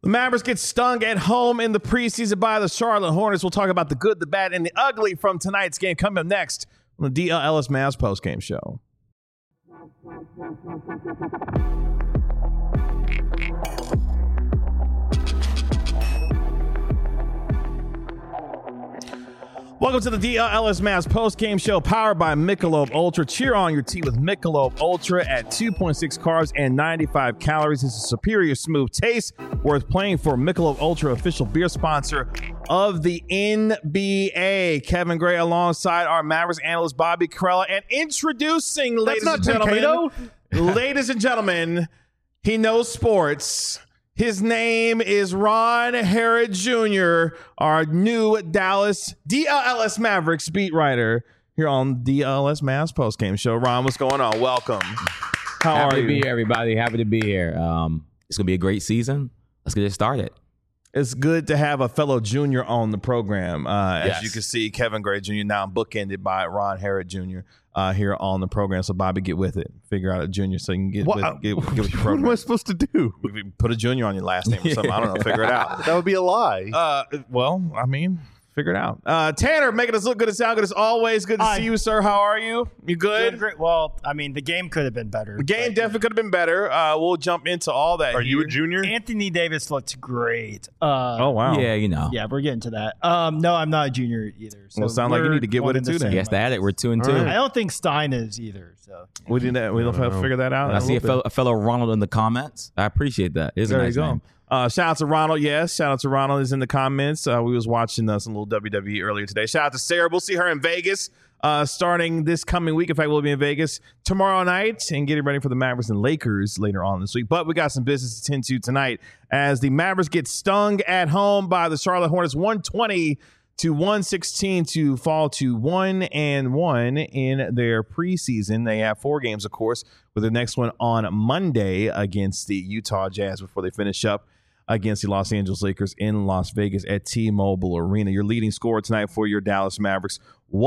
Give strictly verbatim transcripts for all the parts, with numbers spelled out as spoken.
The Mavericks get stung at home in the preseason by the Charlotte Hornets. We'll talk about the good, the bad, and the ugly from tonight's game coming up next on the D L Ellis Mavs postgame show. Welcome to the D L Ellis Mavs post-game show powered by Michelob Ultra. Cheer on your tea with Michelob Ultra at two point six carbs and ninety-five calories. It's a superior smooth taste worth playing for. Michelob Ultra, official beer sponsor of the N B A. Kevin Gray alongside our Mavericks analyst Bobby Karalla, and introducing, ladies and gentlemen, ladies and gentlemen, he knows sports. His name is Ron Harrod Junior, our new Dallas D L L S Mavericks beat writer here on D L L S Mavs postgame show. Ron, what's going on? Welcome. How Happy are to you? be here, everybody. Happy to be here. Um, it's going to be a great season. Let's get it started. It's good to have a fellow junior on the program. Uh, Yes. As you can see, Kevin Gray Junior now bookended by Ron Harrod Junior Uh, here on the program. So, Bobby, get with it. Figure out a junior so you can get, What, with, get, get with your what program. am I supposed to do? Put a junior on your last name or something. I don't know. Figure it out. That would be a lie. Uh, well, I mean, figure it out. Uh, Tanner, making us look good and sound good as always. Good to Hi. see you, sir. How are you? You good? Doing great. Well, I mean, the game could have been better. The game but, definitely could have been better. Uh, we'll jump into all that. Are you here. a junior? Anthony Davis looked great. Uh, Oh, wow. Yeah, you know. Yeah, we're getting to that. Um, no, I'm not a junior either. So Well, sound like you we're need to get one with in it the too then. same Yes, that it. We're two and All two. right. I don't think Stein is either. So We didn't. We don't have to figure that out. I a see a little fellow, bit. a fellow Ronald in the comments. I appreciate that. It's a There nice you go. name. Uh, shout out to Ronald. Yes, shout out to Ronald is in the comments. Uh, we was watching uh, some little W W E earlier today. Shout out to Sarah. We'll see her in Vegas uh, starting this coming week. In fact, we'll be in Vegas tomorrow night and getting ready for the Mavericks and Lakers later on this week. But we got some business to tend to tonight as the Mavericks get stung at home by the Charlotte Hornets, one twenty to one sixteen to fall to one and one in their preseason. They have four games, of course, with the next one on Monday against the Utah Jazz before they finish up against the Los Angeles Lakers in Las Vegas at T-Mobile Arena. Your leading scorer tonight for your Dallas Mavericks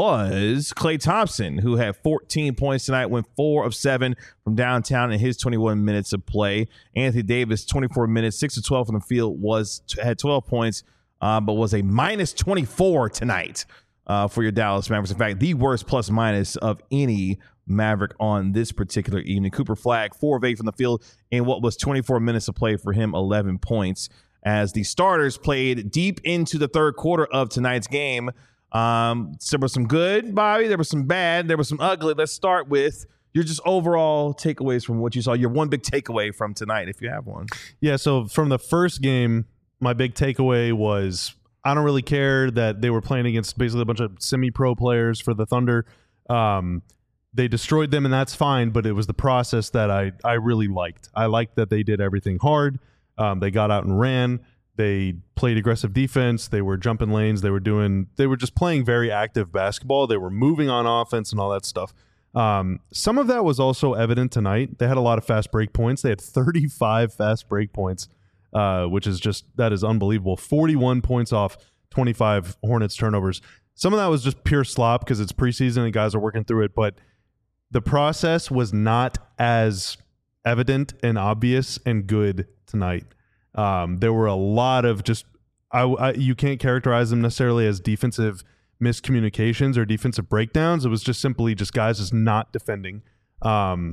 was Klay Thompson, who had fourteen points tonight, went four of seven from downtown in his twenty-one minutes of play. Anthony Davis, twenty-four minutes, six of twelve from the field, was had twelve points, uh, but was a minus twenty-four tonight uh, for your Dallas Mavericks. In fact, the worst plus minus of any Maverick on this particular evening. Cooper Flagg, four of eight from the field in what was twenty-four minutes of play for him, eleven points. As the starters played deep into the third quarter of tonight's game. Um, so there was some good, Bobby. There was some bad. There was some ugly. Let's start with your just overall takeaways from what you saw. Your one big takeaway from tonight, if you have one. Yeah, so from the first game, my big takeaway was I don't really care that they were playing against basically a bunch of semi-pro players for the Thunder. Um, they destroyed them, and that's fine, but it was the process that I, I really liked. I liked that they did everything hard. Um, they got out and ran. They played aggressive defense. They were jumping lanes. They were doing. They were just playing very active basketball. They were moving on offense and all that stuff. Um, some of that was also evident tonight. They had a lot of fast break points. They had thirty-five fast break points, uh, which is just that is unbelievable. forty-one points off twenty-five Hornets turnovers. Some of that was just pure slop because it's preseason and guys are working through it. But the process was not as evident and obvious and good tonight. Um, there were a lot of just I, I, you can't characterize them necessarily as defensive miscommunications or defensive breakdowns. It was just simply just guys just not defending. Um,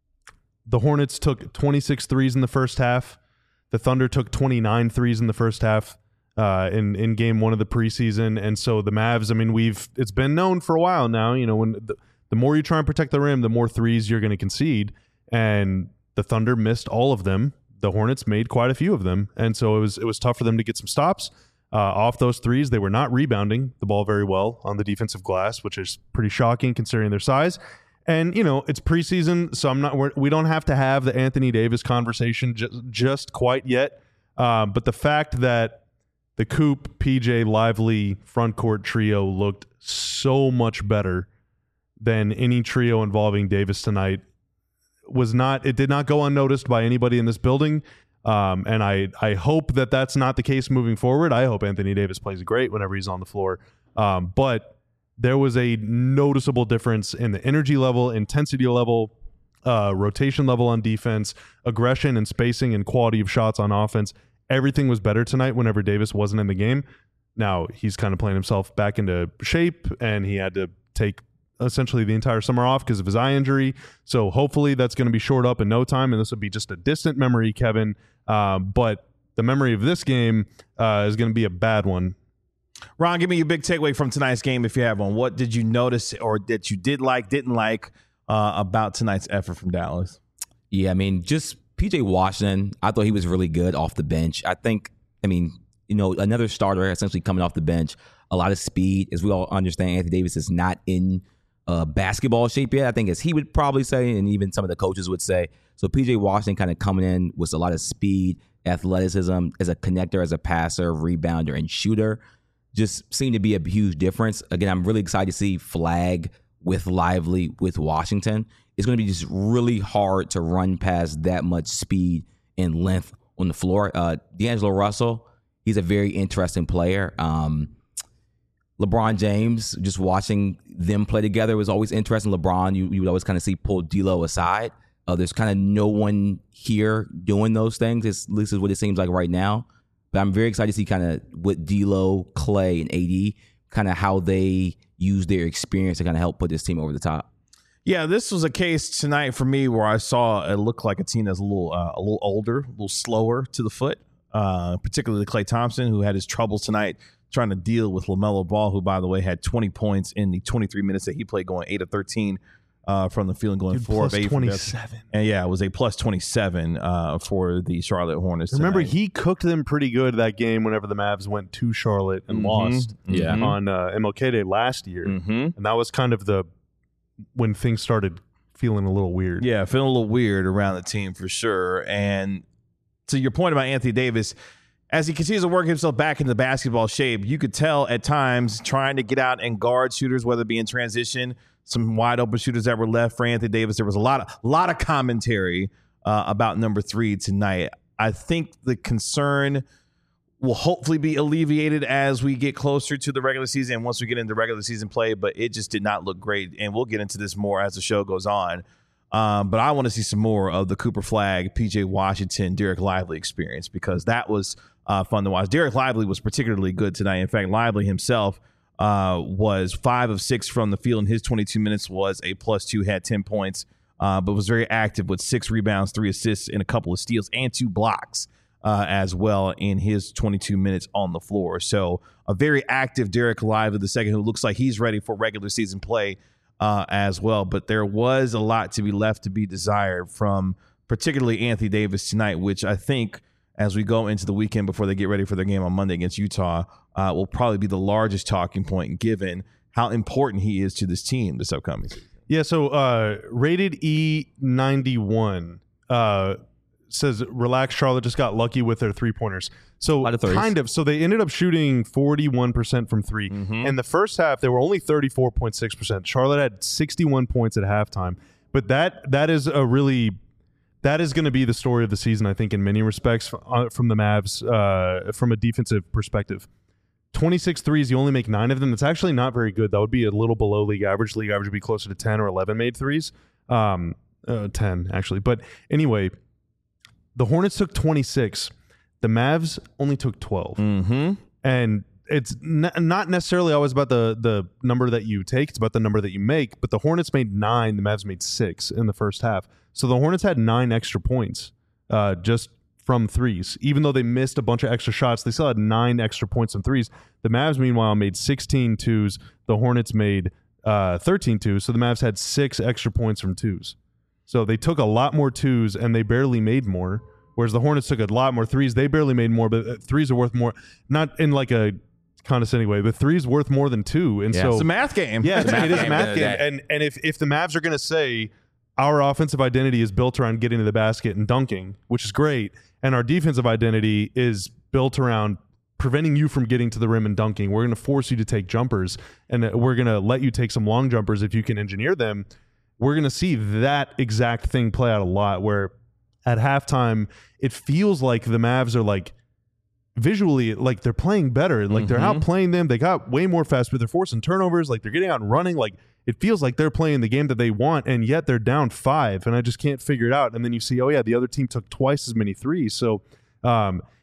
the Hornets took twenty-six threes in the first half. The Thunder took twenty-nine threes in the first half uh, in in game one of the preseason. And so the Mavs, I mean, we've it's been known for a while now. You know, when the, the more you try and protect the rim, the more threes you're going to concede. And the Thunder missed all of them. The Hornets made quite a few of them, and so it was it was tough for them to get some stops uh, off those threes. They were not rebounding the ball very well on the defensive glass, which is pretty shocking considering their size. And you know it's preseason, so I'm not we're, we don't have to have the Anthony Davis conversation just just quite yet. Uh, but the fact that the Coop, P J, Lively front court trio looked so much better than any trio involving Davis tonight was not it did not go unnoticed by anybody in this building, um, and I I hope that that's not the case moving forward. I hope Anthony Davis plays great whenever he's on the floor, um, but there was a noticeable difference in the energy level, intensity level, uh, rotation level on defense, aggression and spacing and quality of shots on offense. everything was better tonight whenever Davis wasn't in the game. Now he's kind of playing himself back into shape, and he had to take essentially the entire summer off because of his eye injury. So hopefully that's going to be shored up in no time, and this will be just a distant memory, Kevin. Uh, but the memory of this game uh, is going to be a bad one. Ron, give me your big takeaway from tonight's game if you have one. What did you notice or that you did like, didn't like uh, about tonight's effort from Dallas? Yeah, I mean, just P J Washington, I thought he was really good off the bench. I think, I mean, you know, another starter essentially coming off the bench, a lot of speed. As we all understand, Anthony Davis is not in uh, basketball shape yet, I think, as he would probably say, and even some of the coaches would say. So P J Washington kind of coming in with a lot of speed, athleticism, as a connector, as a passer, rebounder, and shooter. Just seemed to be a huge difference. Again, I'm really excited to see Flag with Lively with Washington. It's going to be just really hard to run past that much speed and length on the floor. Uh, D'Angelo Russell, he's a very interesting player. Um, LeBron James, just watching them play together was always interesting. LeBron, you, you would always kind of see pull D'Lo aside. Uh, there's kind of no one here doing those things. It's, at least is what it seems like right now. But I'm very excited to see kind of with D'Lo, Clay, and A D, kind of how they use their experience to kind of help put this team over the top. Yeah, this was a case tonight for me where I saw it look like a team that's a little uh, a little older, a little slower to the foot, uh, particularly Klay Thompson, who had his troubles tonight trying to deal with LaMelo Ball, who, by the way, had twenty points in the twenty-three minutes that he played, going eight of thirteen uh, from the field and going Dude, four plus of eight. twenty-seven. And yeah, it was a plus twenty-seven uh, for the Charlotte Hornets Remember, tonight. he cooked them pretty good that game whenever the Mavs went to Charlotte and Mhm. lost Yeah. Mhm. on uh, M L K Day last year. Mhm. And that was kind of the when things started feeling a little weird. Yeah, feeling a little weird around the team for sure. And to your point about Anthony Davis, as he continues to work himself back into basketball shape, you could tell at times trying to get out and guard shooters, whether it be in transition, some wide open shooters that were left for Anthony Davis. There was a lot of lot of commentary uh, about number three tonight. I think the concern will hopefully be alleviated as we get closer to the regular season and once we get into regular season play, but it just did not look great. And we'll get into this more as the show goes on. Um, but I want to see some more of the Cooper Flag, P J Washington, Derek Lively experience, because that was uh, fun to watch. Derek Lively was particularly good tonight. In fact, Lively himself uh, was five of six from the field, and his twenty-two minutes was a plus two, had ten points, uh, but was very active with six rebounds, three assists, and a couple of steals, and two blocks. Uh, as well in his twenty-two minutes on the floor. So a very active Derek Lively the second, who looks like he's ready for regular season play uh, as well. But there was a lot to be left to be desired from particularly Anthony Davis tonight, which I think as we go into the weekend before they get ready for their game on Monday against Utah uh, will probably be the largest talking point given how important he is to this team this upcoming season. Yeah, so uh, rated E ninety-one uh, says, relax, Charlotte just got lucky with their three-pointers. So lot of threes. kind of. So they ended up shooting forty-one percent from three. Mhm. In the first half, they were only thirty-four point six percent. Charlotte had sixty-one points at halftime. But that that is a really – that is going to be the story of the season, I think, in many respects uh, from the Mavs uh, from a defensive perspective. twenty-six threes, you only make nine of them. That's actually not very good. That would be a little below league average. League average would be closer to ten or eleven made threes. Um, uh, ten, actually. But anyway – the Hornets took twenty-six. The Mavs only took twelve. Mm-hmm. And it's n- not necessarily always about the, the number that you take. It's about the number that you make. But the Hornets made nine. The Mavs made six in the first half. So the Hornets had nine extra points uh, just from threes. Even though they missed a bunch of extra shots, they still had nine extra points from threes. The Mavs, meanwhile, made sixteen twos. The Hornets made uh, thirteen twos. So the Mavs had six extra points from twos. So they took a lot more twos and they barely made more, whereas the Hornets took a lot more threes. They barely made more, but threes are worth more. Not in like a condescending way, but threes worth more than two. And Yeah. so It's a math game. yeah, it's, it is a game math at the game. end of the And and if if the Mavs are going to say our offensive identity is built around getting to the basket and dunking, which is great, and our defensive identity is built around preventing you from getting to the rim and dunking, we're going to force you to take jumpers, and we're going to let you take some long jumpers if you can engineer them. We're going to see that exact thing play out a lot, where at halftime it feels like the Mavs are like visually like they're playing better, like they're Mhm. outplaying them. They got way more fast, but they're forcing turnovers, like they're getting out and running. Like it feels like they're playing the game that they want, and yet they're down five, and I just can't figure it out. And then you see, oh yeah, the other team took twice as many threes. So um,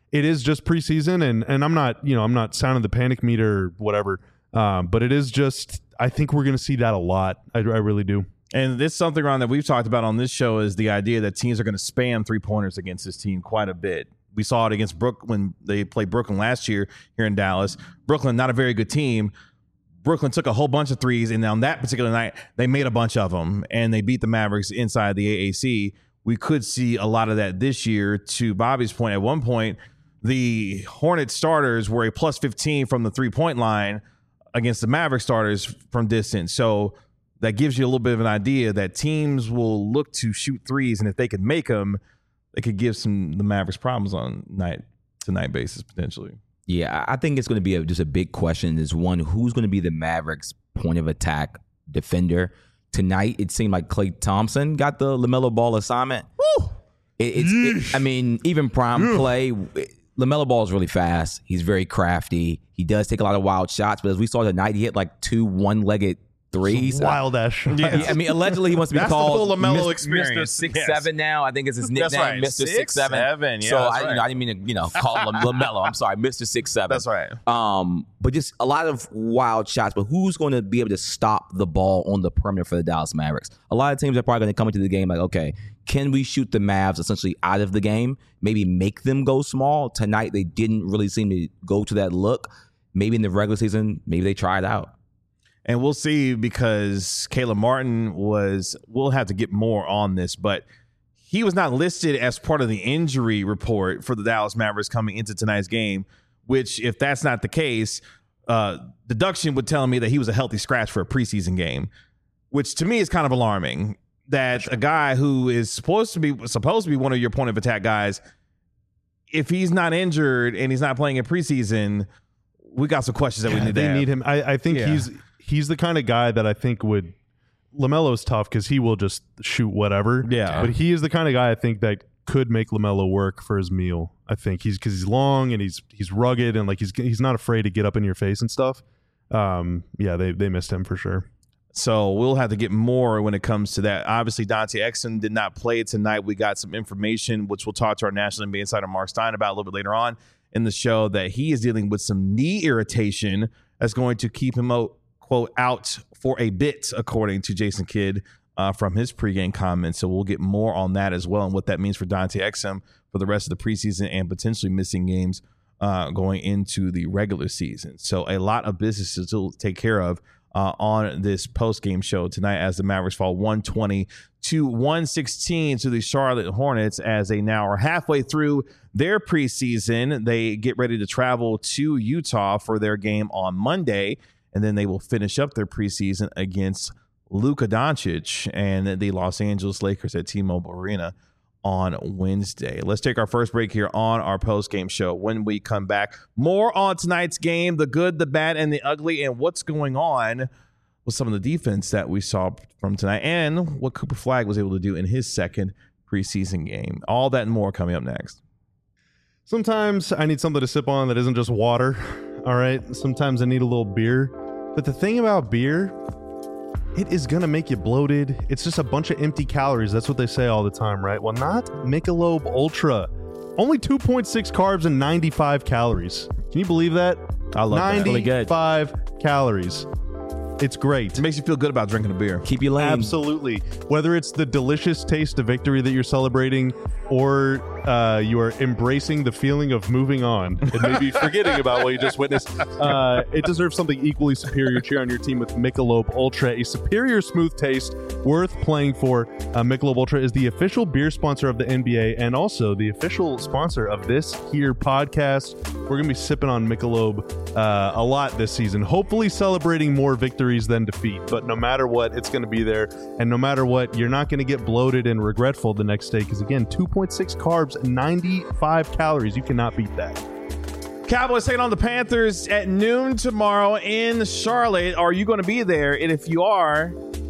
it is just preseason, and and I'm not you know I'm not sounding the panic meter or whatever, um, but it is just I think we're going to see that a lot. I, I really do. And this is something, Ron, that we've talked about on this show is the idea that teams are going to spam three-pointers against this team quite a bit. We saw it against Brook when they played Brooklyn last year here in Dallas. Brooklyn, not a very good team. Brooklyn took a whole bunch of threes, and on that particular night, they made a bunch of them, and they beat the Mavericks inside the A A C. We could see a lot of that this year. To Bobby's point, at one point, the Hornets starters were a plus fifteen from the three-point line against the Maverick starters from distance. So that gives you a little bit of an idea that teams will look to shoot threes, and if they could make them, they could give some the Mavericks problems on night to night basis potentially. Yeah, I think it's going to be a, just a big question. Is one, who's going to be the Mavericks' point of attack defender tonight? It seemed like Klay Thompson got the LaMelo Ball assignment. Woo! It, it's, it, I mean, even prime Klay, LaMelo Ball is really fast. He's very crafty. He does take a lot of wild shots, but as we saw tonight, he hit like two one-legged threes. Wild ash. Yeah. I mean, allegedly he wants to be That's called the full LaMelo Mister experience. Mister Six Yes. Seven now. I think is his nickname, That's right. Mister Six, Six Seven. seven. Yeah, so that's I, you right. know, I didn't mean to, you know, call him LaMelo. I'm sorry, Mister Six Seven. That's right. Um, but just a lot of wild shots. But who's going to be able to stop the ball on the perimeter for the Dallas Mavericks? A lot of teams are probably going to come into the game like, okay, can we shoot the Mavs essentially out of the game? Maybe make them go small. Tonight they didn't really seem to go to that look. Maybe in the regular season, maybe they try it out. And we'll see, because Caleb Martin was, we'll have to get more on this, but he was not listed as part of the injury report for the Dallas Mavericks coming into tonight's game, which, if that's not the case, uh, deduction would tell me that he was a healthy scratch for a preseason game, which to me is kind of alarming, that a guy who is supposed to be supposed to be one of your point of attack guys, if he's not injured and he's not playing in preseason, we got some questions that we need to They have. need him. I, I think Yeah. he's he's the kind of guy that I think would. LaMelo's tough because he will just shoot whatever. Yeah. But he is the kind of guy I think that could make LaMelo work for his meal. I think he's because he's long and he's he's rugged and like he's he's not afraid to get up in your face and stuff. Um, yeah, they they missed him for sure. So we'll have to get more when it comes to that. Obviously, Dante Exum did not play tonight. We got some information, which we'll talk to our National N B A insider Mark Stein about a little bit later on in the show, that he is dealing with some knee irritation that's going to keep him out, quote, out for a bit, according to Jason Kidd uh, from his pregame comments. So we'll get more on that as well and what that means for Dante Exum for the rest of the preseason and potentially missing games uh, going into the regular season. So a lot of business to still take care of Uh, on this post-game show tonight, as the Mavericks fall one twenty to one sixteen to the Charlotte Hornets, as they now are halfway through their preseason. They get ready to travel to Utah for their game on Monday, and then they will finish up their preseason against Luka Doncic and the Los Angeles Lakers at T-Mobile Arena on Wednesday. Let's take our first break here on our post-game show. When we come back, more on tonight's game, the good, the bad, and the ugly, and what's going on with some of the defense that we saw from tonight, and what Cooper Flagg was able to do in his second preseason game. All that and more coming up next. Sometimes I need something to sip on that isn't just water. All right. Sometimes I need a little beer. But the thing about beer, it is going to make you bloated. It's just a bunch of empty calories. That's what they say all the time, right? Well, not Michelob Ultra. Only two point six carbs and ninety-five calories. Can you believe that? I love that. Really good. ninety-five calories. It's great. It makes you feel good about drinking a beer. Keep you lane. Absolutely. Whether it's the delicious taste of victory that you're celebrating, or uh, you are embracing the feeling of moving on and maybe forgetting about what you just witnessed, uh, it deserves something equally superior. Cheer on your team with Michelob Ultra, a superior smooth taste worth playing for. Uh, Michelob Ultra is the official beer sponsor of the N B A and also the official sponsor of this here podcast. We're going to be sipping on Michelob uh, a lot this season, hopefully celebrating more victories than defeat. But no matter what, it's going to be there. And no matter what, you're not going to get bloated and regretful the next day because, again, two point six carbs, ninety-five calories. You cannot beat that. Cowboys taking on the Panthers at noon tomorrow in Charlotte. Are you going to be there? And if you are,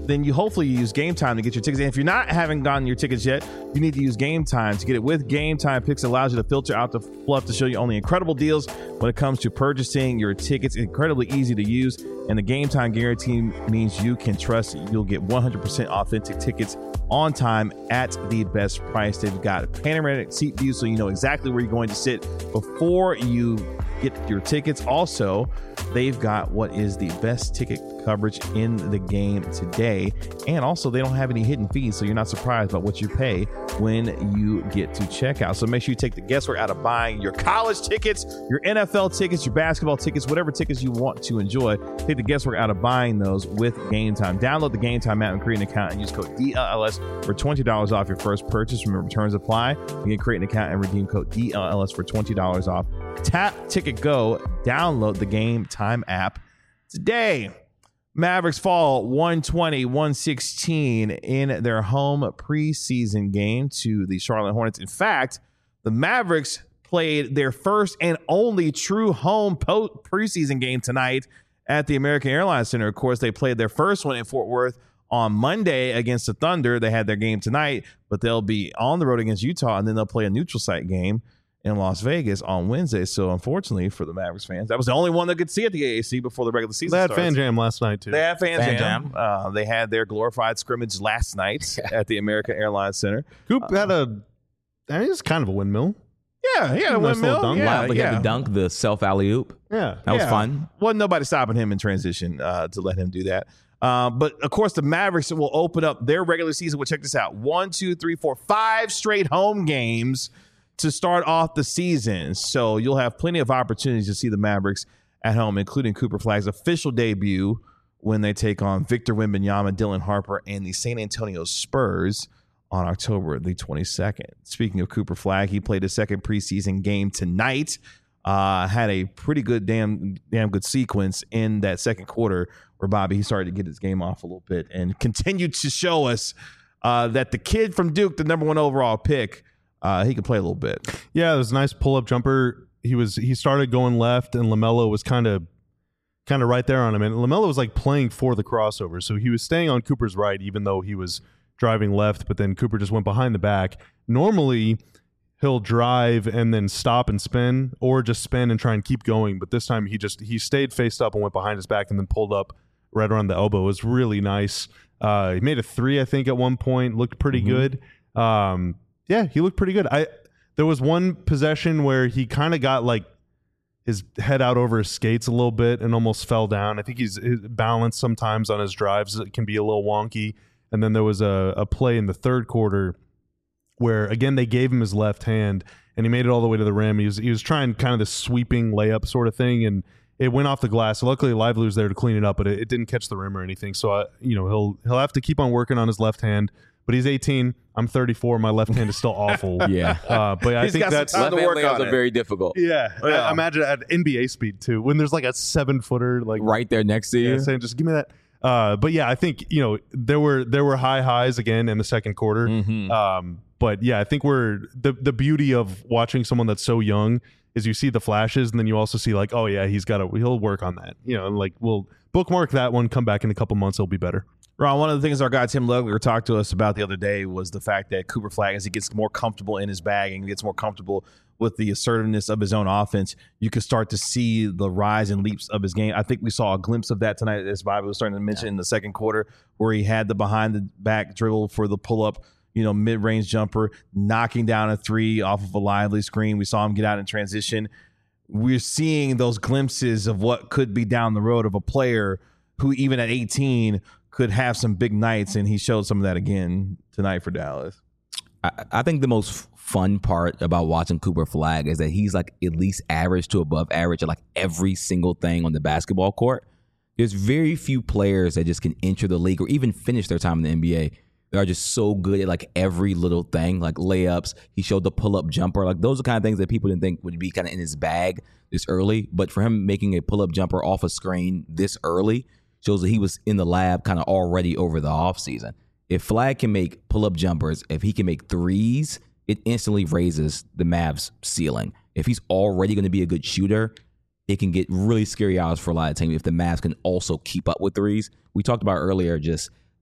then you hopefully use Game Time to get your tickets. And if you're not having gotten your tickets yet, you need to use Game Time to get it. With Game Time, Pix allows you to filter out the fluff to show you only incredible deals when it comes to purchasing your tickets. Incredibly easy to use, and the Game Time guarantee means you can trust you'll get one hundred percent authentic tickets on time at the best price. They've got panoramic seat view, so you know exactly where you're going to sit before you get your tickets. Also, they've got what is the best ticket coverage in the game today, and also they don't have any hidden fees, so you're not surprised about what you pay when you get to checkout. So make sure you take the guesswork out of buying your college tickets, your N F L tickets, your basketball tickets, whatever tickets you want to enjoy. Take the guesswork out of buying those with Game Time. Download the Game Time app and create an account and use code D L L S for twenty dollars off your first purchase. Remember, returns apply. You can create an account and redeem code D L L S for twenty dollars off. Tap Ticket Go. Download the Game Time app today. Mavericks fall one twenty to one sixteen in their home preseason game to the Charlotte Hornets. In fact, the Mavericks played their first and only true home po- preseason game tonight at the American Airlines Center. Of course, they played their first one in Fort Worth on Monday against the Thunder. They had their game tonight, but they'll be on the road against Utah, and then they'll play a neutral site game in Las Vegas on Wednesday. So unfortunately for the Mavericks fans, that was the only one that could see at the A A C before the regular season They had starts. Fan Jam last night, too. They had Fan, Fan Jam. Jam. Uh, they had their glorified scrimmage last night at the American Airlines Center. Coop had a, I mean, it's kind of a windmill. Yeah, he had a Nice little windmill. dunk. Yeah, Wow, but he yeah. had the dunk, the self alley oop. Yeah. That was Yeah. fun. Wasn't nobody stopping him in transition uh, to let him do that. Uh, but of course, the Mavericks will open up their regular season. Well, check this out: one, two, three, four, five straight home games to start off the season. So you'll have plenty of opportunities to see the Mavericks at home, including Cooper Flagg's official debut when they take on Victor Wembanyama, Dylan Harper, and the San Antonio Spurs on October the twenty-second. Speaking of Cooper Flagg, he played his second preseason game tonight. Uh, had a pretty good, damn, damn good sequence in that second quarter where Bobby, he started to get his game off a little bit and continued to show us uh, that the kid from Duke, the number one overall pick, uh, he can play a little bit. Yeah, it was a nice pull-up jumper. He was he started going left, and LaMelo was kind of kind of right there on him. And LaMelo was like playing for the crossover, so he was staying on Cooper's right, even though he was driving left. But then Cooper just went behind the back. Normally, he'll drive and then stop and spin, or just spin and try and keep going. But this time, he just he stayed faced up and went behind his back, and then pulled up right around the elbow. It was really nice. Uh, he made a three, I think, at one point. Looked pretty Mm-hmm. good. Um, yeah, he looked pretty good. I there was one possession where he kind of got like his head out over his skates a little bit and almost fell down. I think he's his balance sometimes on his drives it can be a little wonky. And then there was a, a play in the third quarter where again they gave him his left hand and he made it all the way to the rim. He was he was trying kind of this sweeping layup sort of thing, and it went off the glass. So luckily, Lively was there to clean it up, but it, it didn't catch the rim or anything. So I, you know he'll he'll have to keep on working on his left hand. But he's eighteen. I'm thirty-four. My left hand is still awful. Yeah. Uh, but I He's think got some that's time to Left-hand work layups on are it. very difficult. yeah. Yeah. I, imagine at N B A speed too, when there's like a seven footer like Right there next to you. yeah, saying just give me that. Uh, but yeah, I think you know there were there were high highs again in the second quarter. Mhm. Um, but yeah, I think we're the the beauty of watching someone that's so young is you see the flashes and then you also see like, oh yeah, he's got to he'll work on that. You know, like we'll bookmark that one. Come back in a couple months, he'll be better. Ron, one of the things our guy Tim Lugler talked to us about the other day was the fact that Cooper Flagg, as he gets more comfortable in his bag and gets more comfortable with the assertiveness of his own offense, you can start to see the rise and leaps of his game. I think we saw a glimpse of that tonight, as Bobby was starting to mention, in the second quarter, where he had the behind the back dribble for the pull up, you know, mid range jumper, knocking down a three off of a lively screen. We saw him get out in transition. We're seeing those glimpses of what could be down the road of a player who, even at eighteen, could have some big nights, and he showed some of that again tonight for Dallas. I, I think the most fun part about watching Cooper Flagg is that he's like at least average to above average at like every single thing on the basketball court. There's very few players that just can enter the league or even finish their time in the N B A. They are just so good at like every little thing, like layups. He showed the pull-up jumper. Like those are kind of things that people didn't think would be kind of in his bag this early. But for him making a pull-up jumper off a screen this early shows that he was in the lab kind of already over the offseason. If Flagg can make pull-up jumpers, if he can make threes, it instantly raises the Mavs' ceiling. If he's already going to be a good shooter, it can get really scary hours for a lot of teams if the Mavs can also keep up with threes. We talked about earlier just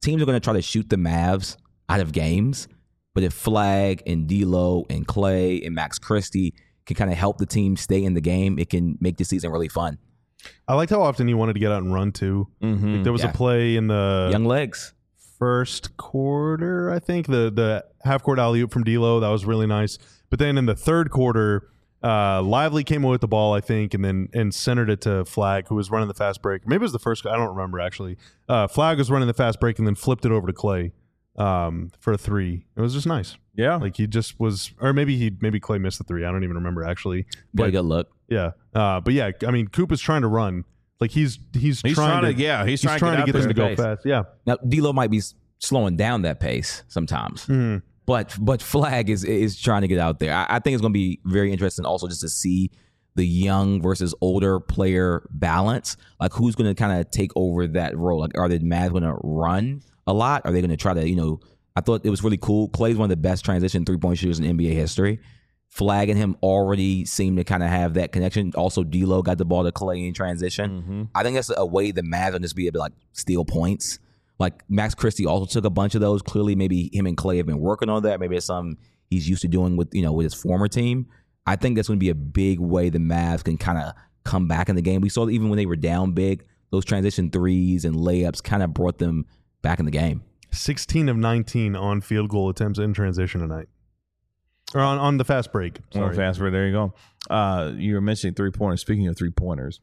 teams are going to try to shoot the Mavs out of games. But if Flag and D'Lo and Clay and Max Christie can kind of help the team stay in the game, it can make the season really fun. I liked how often he wanted to get out and run too. Mm-hmm. Like there was Yeah. a play in the Young legs. first quarter, I think, the the half court alley oop from D'Lo, that was really nice. But then in the third quarter, uh, Lively came away with the ball, I think, and then and centered it to Flag, who was running the fast break. Maybe it was the first. I don't remember actually. Uh, Flag was running the fast break and then flipped it over to Clay um, for a three. It was just nice. Yeah. Like he just was, or maybe he maybe Clay missed the three. I don't even remember actually. Got a But good look. yeah, uh, but yeah, I mean, Coop is trying to run. Like he's he's, He's trying, trying to, to- yeah, he's he's trying trying to to get get out them to there. go Pace. fast. Yeah. Now, D'Lo might be s- slowing down that pace sometimes. Mhm. But but Flag is is trying to get out there. I, I think it's going to be very interesting also just to see the young versus older player balance. Like who's going to kind of take over that role? Like are the Mavs going to run a lot? Are they going to try to, you know, I thought it was really cool. Clay's one of the best transition three-point shooters in N B A history. Flag and him already seem to kind of have that connection. Also, D'Lo got the ball to Clay in transition. Mm-hmm. I think that's a way the Mavs will just be able to like steal points. Like Max Christie also took a bunch of those. Clearly, maybe him and Clay have been working on that. Maybe it's something he's used to doing with you know with his former team. I think that's going to be a big way the Mavs can kind of come back in the game. We saw that even when they were down big, those transition threes and layups kind of brought them back in the game. sixteen of nineteen on field goal attempts in transition tonight. Or on, on the fast break. On Sorry. fast break. There you go. Uh, you were mentioning three pointers. Speaking of three pointers,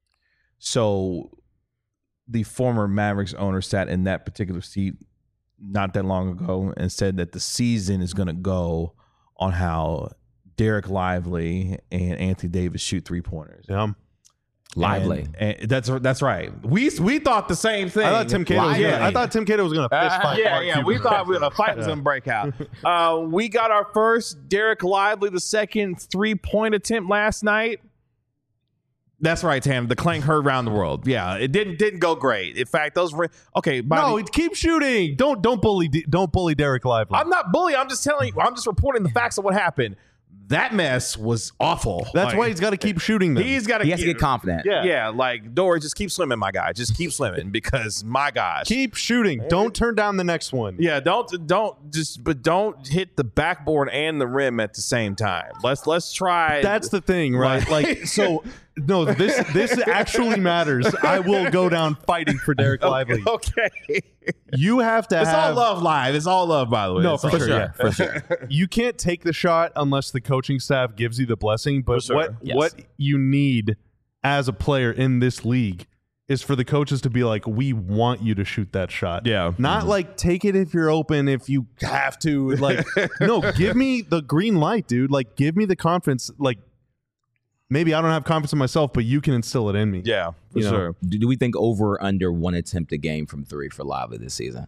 so the former Mavericks owner sat in that particular seat not that long ago and said that the season is going to go on how Derek Lively and Anthony Davis shoot three pointers. Yeah. Lively. And, and that's that's right. We we thought the same thing. I thought Tim Cato was Lively. gonna, I thought Tim Cato was going to fist fight. yeah, Mark yeah. Cuban. We thought we, a fight was going to break out. Uh, we got our first Derek Lively, the second three point attempt last night. That's right, Tam. The clank heard around the world. Yeah, it didn't didn't go great. In fact, those were okay. By No, the, keep shooting. Don't don't bully D- don't bully Derek Lively. I'm not bullying. I'm just telling you. I'm just reporting the facts of what happened. That mess was awful. That's Like, why he's got to keep shooting them. He's got to He has to get confident. Yeah. Yeah, like Dory, just keep swimming, my guy. Just keep swimming because my gosh. keep shooting. Don't turn down the next one. Yeah, don't don't just but don't hit the backboard and the rim at the same time. Let's let's try. That's the thing, right? Right. Like, so no, this this actually matters. I will go down fighting for Derek Lively. okay. You have to It's all have love live. It's all love, by the way. No, It's for all- sure, yeah. For sure. You can't take the shot unless the coaching staff gives you the blessing. But sure. what Yes. what you need as a player in this league is for the coaches to be like, we want you to shoot that shot. Yeah. Not like take it if you're open, if you have to. Like, no, give me the green light, dude. Like, give me the confidence. Like, maybe I don't have confidence in myself, but you can instill it in me. Yeah, for You know. sure. Do, do we think over or under one attempt a game from three for Lively this season?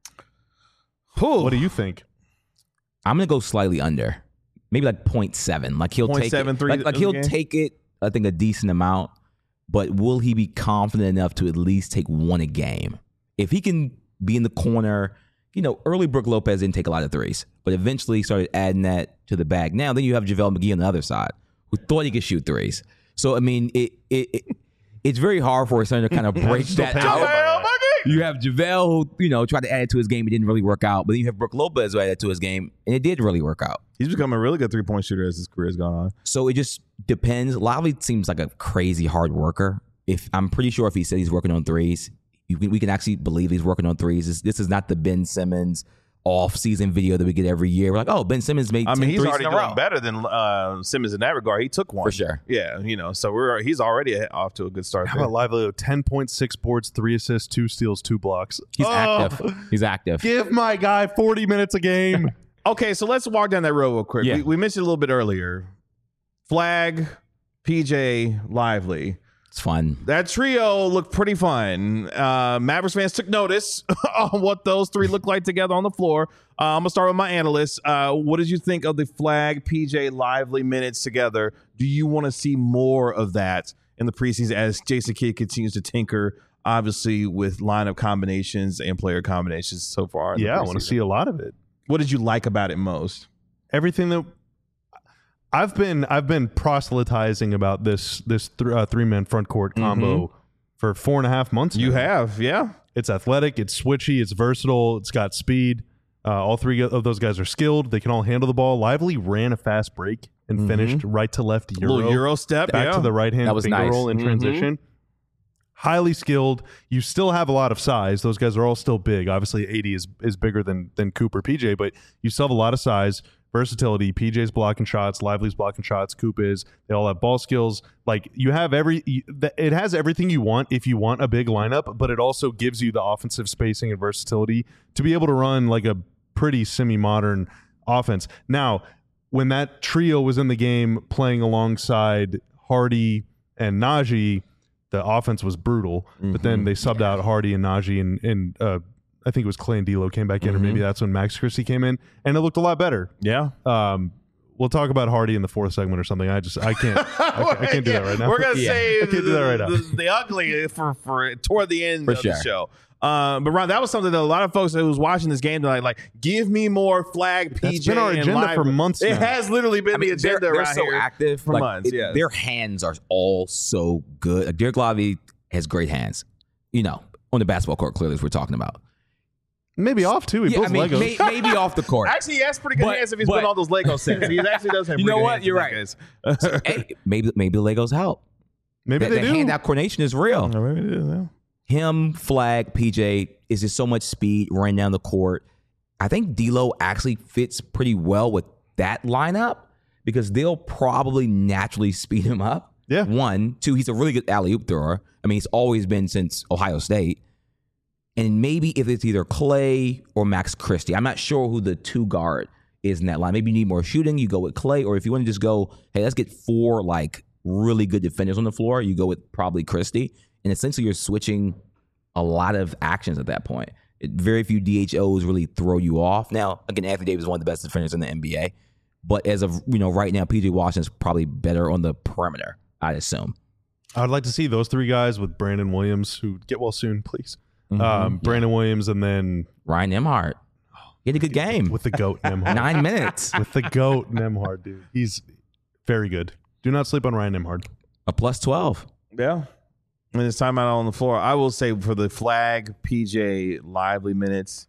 What do you think? I'm gonna go slightly under, maybe like point seven. Like he'll point take seven it. three Like, like a he'll game? take it. I think a decent amount, but will he be confident enough to at least take one a game? If he can be in the corner, you know, early Brook Lopez didn't take a lot of threes, but eventually started adding that to the bag. Now then you have JaVale McGee on the other side, who thought he could shoot threes. So I mean, it it, it it's very hard for a center to kind of break still that paying out. JaVale McGee! You have JaVale who, you know, tried to add it to his game. It didn't really work out. But then you have Brook Lopez who added it to his game, and it did really work out. He's become a really good three point shooter as his career has gone on. So it just depends. Lively seems like a crazy hard worker. If I'm pretty sure if he said he's working on threes, you can, we can actually believe he's working on threes. This, this is not the Ben Simmons off-season video that we get every year. We're like, oh, Ben Simmons made I ten mean, he's threes already in a doing row. better than uh, Simmons in that regard. He took one For sure. Yeah, you know, so we're he's already off to a good start. How there. about Lively? ten point six boards, three assists, two steals, two blocks. He's Oh, active. He's active. Give my guy forty minutes a game. Okay, so let's walk down that road real quick. Yeah. We, we mentioned a little bit earlier. Flag, P J, Lively. It's fun. That trio looked pretty fun. Uh, Mavericks fans took notice on what those three look like together on the floor. Uh, I'm gonna start with my analyst. Uh, what did you think of the Flag, P J, Lively minutes together? Do you want to see more of that in the preseason as Jason Kidd continues to tinker, obviously with lineup combinations and player combinations so far? in the Yeah, I want to preseason? see a lot of it. What did you like about it most? Everything that I've been I've been proselytizing about this this th- uh, three man front court combo for four and a half months. You now. have, yeah. It's athletic, it's switchy, it's versatile, it's got speed. Uh, all three of those guys are skilled. They can all handle the ball. Lively ran a fast break and Mhm. finished right to left A Euro. little Euro step. back yeah. to the right hand That was finger nice. roll in Mhm. transition. Highly skilled. You still have a lot of size. Those guys are all still big. Obviously, eighty is is bigger than than Cooper, P J, but you still have a lot of size, versatility. P J's blocking shots, Lively's blocking shots, Coop is. They all have ball skills. Like you have every. You, it has everything you want if you want a big lineup, but it also gives you the offensive spacing and versatility to be able to run like a pretty semi-modern offense. Now, when that trio was in the game playing alongside Hardy and Najee, the offense was brutal. Mm-hmm. But then they subbed yeah. out Hardy and Najee, and, and uh, I think it was Clay and D'Lo came back in, mm-hmm. or maybe that's when Max Christie came in, and it looked a lot better. Yeah. Um, we'll talk about Hardy in the fourth segment or something. I just I can't I, I can't do yeah. that right now. We're gonna yeah. say I can't do that right now. The, the ugly for for toward the end for of sure. the show. Um, but Ron, that was something that a lot of folks who was watching this game tonight, like, give me more flag P J. That's been our and agenda live. for months It now. has literally been I mean, the agenda they're, they're around so here active for like, months. it- Yes. Their hands are all so good. Like, Derek Lively has great hands. You know, on the basketball court, clearly, as we're talking about. Maybe off too. He Yeah, builds I mean, Legos. may, maybe off the court. Actually, he has pretty good But- hands if he's but- been on those Lego sets. He actually does have You pretty know good what? hands You're in right. that case. Hey, maybe maybe the Legos help. maybe That, they that do. hand-eye coordination is real. No, maybe it is, yeah. Him, Flag, P J is just so much speed running down the court. I think D'Lo actually fits pretty well with that lineup because they'll probably naturally speed him up. Yeah. One, two, he's a really good alley-oop thrower. I mean, he's always been since Ohio State. And maybe if it's either Clay or Max Christie, I'm not sure who the two guard is in that line. Maybe you need more shooting, you go with Clay. Or if you want to just go, hey, let's get four like really good defenders on the floor, you go with probably Christie. And essentially you're switching a lot of actions at that point. It, very few D H Os really throw you off. Now, again, Anthony Davis is one of the best defenders in the N B A. But as of, you know, right now, P J Washington's probably better on the perimeter, I'd assume. I'd like to see those three guys with Brandon Williams, who get well soon, please. Mm-hmm. Um, Brandon Williams, and then Ryan Nembhard. He had a good game. with the GOAT Nembhard. Nine minutes. With the GOAT Nembhard, dude. He's very good. Do not sleep on Ryan Nembhard. A plus twelve. Yeah. And it's time out on the floor. I will say for the Flag, P J, Lively minutes,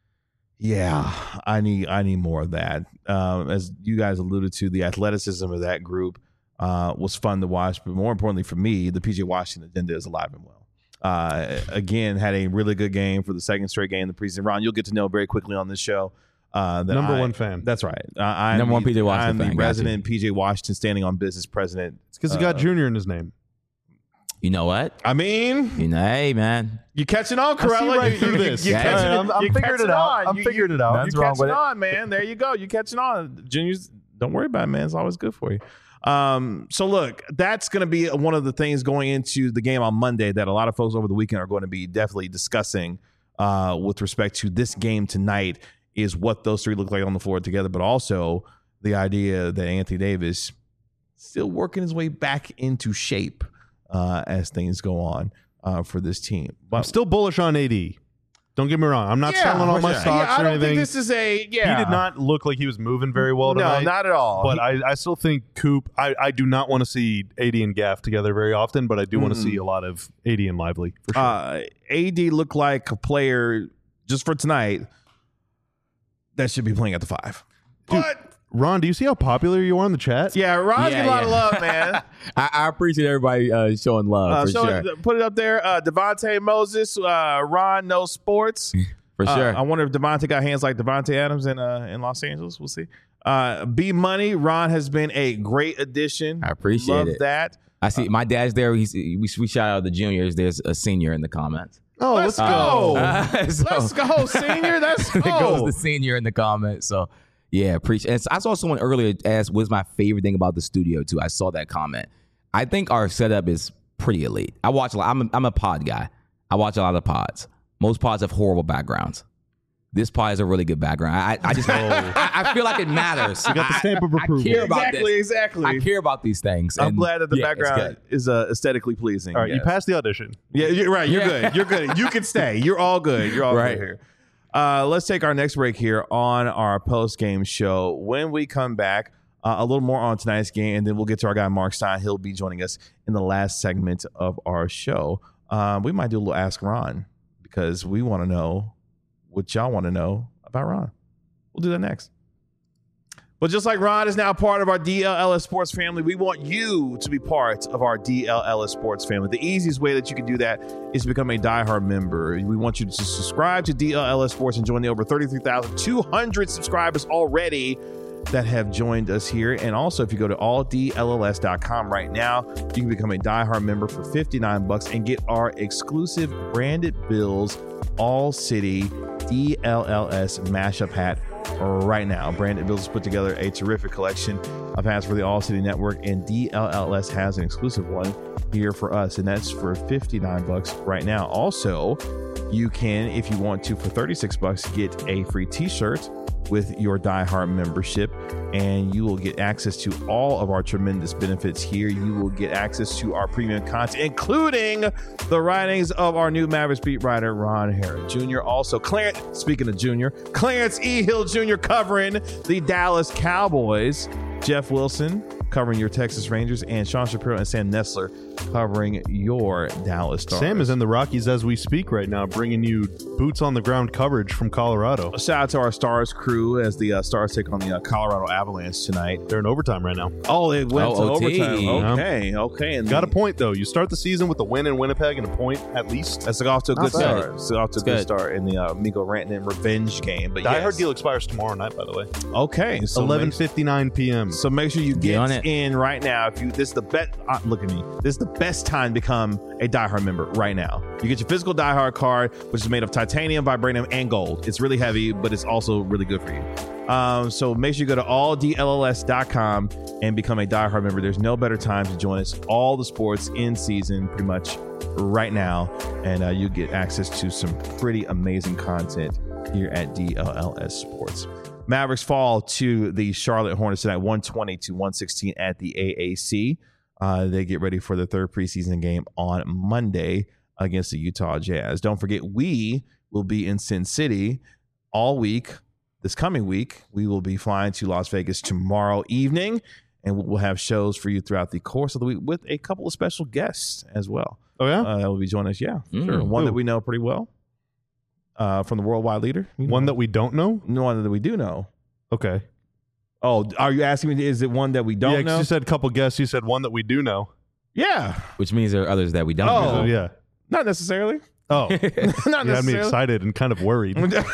yeah, I need I need more of that. Um, as you guys alluded to, the athleticism of that group uh, was fun to watch. But more importantly for me, the P J Washington agenda is alive and well. Uh, again, had a really good game for the second straight game in the preseason. Ron, you'll get to know very quickly on this show. Uh, that Number I- one fan. That's right. Uh, I'm Number one the, P J Washington I'm the fan. Got you. resident P J Washington standing on business president. It's because he got Uh, Junior in his name. You know what? I mean, You know, hey, man. you catching on, I see Corella. right You- through you- this. You Yeah, catching yeah, I'm- I'm you figuring catching it out. on. I'm You- figuring you- it out. You Nothing's wrong catching with it. on, man. There you go. You catching on. Juniors, don't worry about it, man. It's always good for you. Um, so look, that's going to be one of the things going into the game on Monday that a lot of folks over the weekend are going to be definitely discussing uh, with respect to this game tonight is what those three look like on the floor together, but also the idea that Anthony Davis still working his way back into shape uh, as things go on uh, for this team. But I'm still bullish on A D. Don't get me wrong. I'm not Yeah, selling all my yeah, stocks I or don't anything. think this is a yeah. He did not look like he was moving very well No, tonight. not at all. But He- I, I still think Coop. I, I do not want to see A D and Gaff together very often, but I do want to Mm-mm. see a lot of A D and Lively for sure. uh, A D looked like a player just for tonight that should be playing at the five. Dude, But Ron, do you see how popular you are in the chat? yeah, Ron's Yeah, getting a lot of yeah. love, man. I, I appreciate everybody uh, showing love Uh, for so sure. put it up there. Uh, Devontae Moses, uh, Ron knows sports. For Uh, sure. I wonder if Devontae got hands like Devontae Adams in uh, in Los Angeles. We'll see. Uh, B Money, Ron has been a great addition. I appreciate Love it. that. I see my dad's there. He's, we, we shout out the juniors. There's a senior in the comments. Oh, Let's let's, go. go. Uh, so- Let's go, senior. Let's There go. goes the senior in the comments. So yeah, appreciate. And I saw someone earlier ask, "What's my favorite thing about the studio?" Too. I saw that comment. I think our setup is pretty elite. I watch a lot. I'm a, I'm a pod guy. I watch a lot of pods. Most pods have horrible backgrounds. This pod is a really good background. I, I just I, I feel like it matters. You got the stamp of I, I approval. care about exactly, this. exactly. I care about these things. I'm and glad that the yeah, it's background good. is uh, aesthetically pleasing. All right, you yes. passed the audition. Yeah, you're right. You're Yeah. good. You're good. You can stay. You're all good. You're all Right. good here. Uh, let's take our next break here on our post game show. When we come back, uh, a little more on tonight's game, and then we'll get to our guy Mark Stein. He'll be joining us in the last segment of our show. Um, we might do a little Ask Ron because we want to know what y'all want to know about Ron. We'll do that next. But just like Ron is now part of our D L L S Sports family, we want you to be part of our D L L S Sports family. The easiest way that you can do that is to become a diehard member. We want you to subscribe to D L L S Sports and join the over thirty-three thousand two hundred subscribers already that have joined us here. And also, if you go to all D L L S dot com right now, you can become a diehard member for fifty-nine bucks and get our exclusive branded Bills All City D L L S mashup hat right now. Branded Bills has put together a terrific collection of hats for the All City Network, and D L L S has an exclusive one here for us, and that's for fifty-nine bucks right now. Also, you can, if you want to, for thirty-six bucks, get a free t-shirt with your diehard membership, and you will get access to all of our tremendous benefits here. You will get access to our premium content, including the writings of our new Mavericks beat writer, Ron Harrod Junior Also, Clarence, speaking of Junior, Clarence E. Hill Junior covering the Dallas Cowboys, Jeff Wilson covering your Texas Rangers, and Sean Shapiro and Sam Nessler covering your Dallas Stars. Sam is in the Rockies as we speak right now, bringing you boots on the ground coverage from Colorado. Shout out to our Stars crew as the uh, Stars take on the uh, Colorado Avalanche tonight. They're in overtime right now. Oh, it went Oh, to O T. overtime. Okay, okay. And Got a point, though. You start the season with a win in Winnipeg and a point at least. That's off to a Not good bad. start. It's off to a It's good good. start in the uh, Mikko Rantanen revenge game. But Die yes. Hard deal expires tomorrow night, by the way. Okay, so eleven make, fifty-nine p.m. so make sure you Get get on it. in right now. If you this is the best. Uh, look at me. This is the best time to become a Die Hard member right now. You get your physical Die Hard card, which is made of titanium, vibranium, and gold. It's really heavy, but it's also really good for you. Um, so make sure you go to all D L L S dot com and become a Die Hard member. There's no better time to join us. All the sports in season, pretty much right now, and uh, you get access to some pretty amazing content here at D L L S Sports. Mavericks fall to the Charlotte Hornets tonight, one twenty to one sixteen at the A A C. Uh, they get ready for the third preseason game on Monday against the Utah Jazz. Don't forget, we will be in Sin City all week. This coming week, we will be flying to Las Vegas tomorrow evening, and we'll have shows for you throughout the course of the week with a couple of special guests as well. Oh, yeah? Uh, that will be joining us. Yeah, Mm. sure. One Who? that we know pretty well uh, from the Worldwide Leader. You know, One that we don't know? one that we do know. Okay. Oh, are you asking me? Is it one that we don't yeah, 'cause know? you said a couple guests. You said one that we do know. Yeah, Which means there are others that we don't Oh. know. So, yeah. not necessarily. Oh. Not You had me necessarily. excited and kind of worried.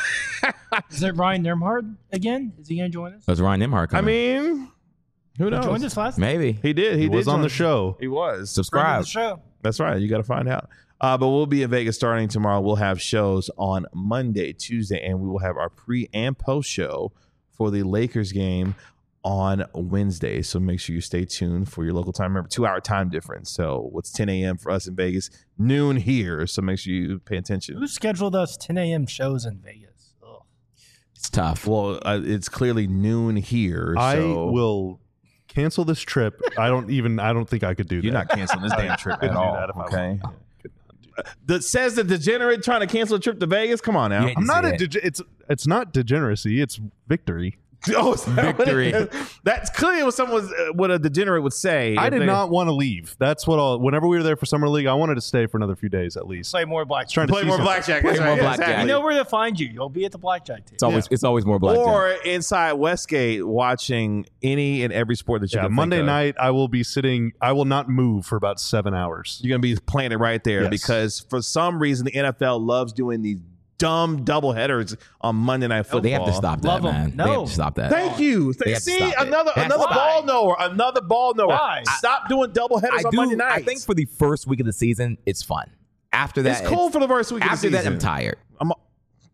Is it Ryan Nemhard again? Is he going to join us? That's Ryan Nimhart I coming. mean, who He knows? joined us last Maybe. He did. He, He did was on join- the show. He was. Friend of Subscribe. the show. That's right. You got to find out. Uh, but we'll be in Vegas starting tomorrow. We'll have shows on Monday, Tuesday, and we will have our pre and post show for the Lakers game on Wednesday. So make sure you stay tuned for your local time. Remember, two hour time difference. So what's ten a.m. for us in Vegas, noon here. So make sure you pay attention. Who scheduled us ten a.m. shows in Vegas? Ugh. It's tough. Well, uh, it's clearly noon here. I so will cancel this trip. I don't even, I don't think I could do You're that. not canceling this damn trip Couldn't at do all. that if I Okay. wanted. Could not do that. That says the degenerate trying to cancel a trip to Vegas. Come on now. Yeah. I'm not a, See it. dege- it's, it's not degeneracy. It's victory. Oh, is that what it Victory. is? That's clearly what someone uh, what a degenerate would say. I if did they- not want to leave. That's what all, whenever we were there for summer league, I wanted to stay for another few days at least. Play more blackjack. Trying to play see more some- blackjack. Play That's more right. blackjack. Exactly. You know where to find you. You'll be at the blackjack table. It's always it's always more black. Or inside Westgate watching any and every sport that you Yeah, can Monday think of. night, I will be sitting, I will not move for about seven hours. You're going to be playing it right there Yes. because for some reason the N F L loves doing these dumb double headers on Monday Night Football. They have to stop that, Love 'em. man. They No. have to stop that. Thank you. They have to See, stop it. another That's another why. ball knower. Another ball knower. Why? Stop doing double headers I on do. Monday nights. I think for the first week of the season, it's fun. After that, it's cool for the first week of the after that, season. I'm tired. I'm a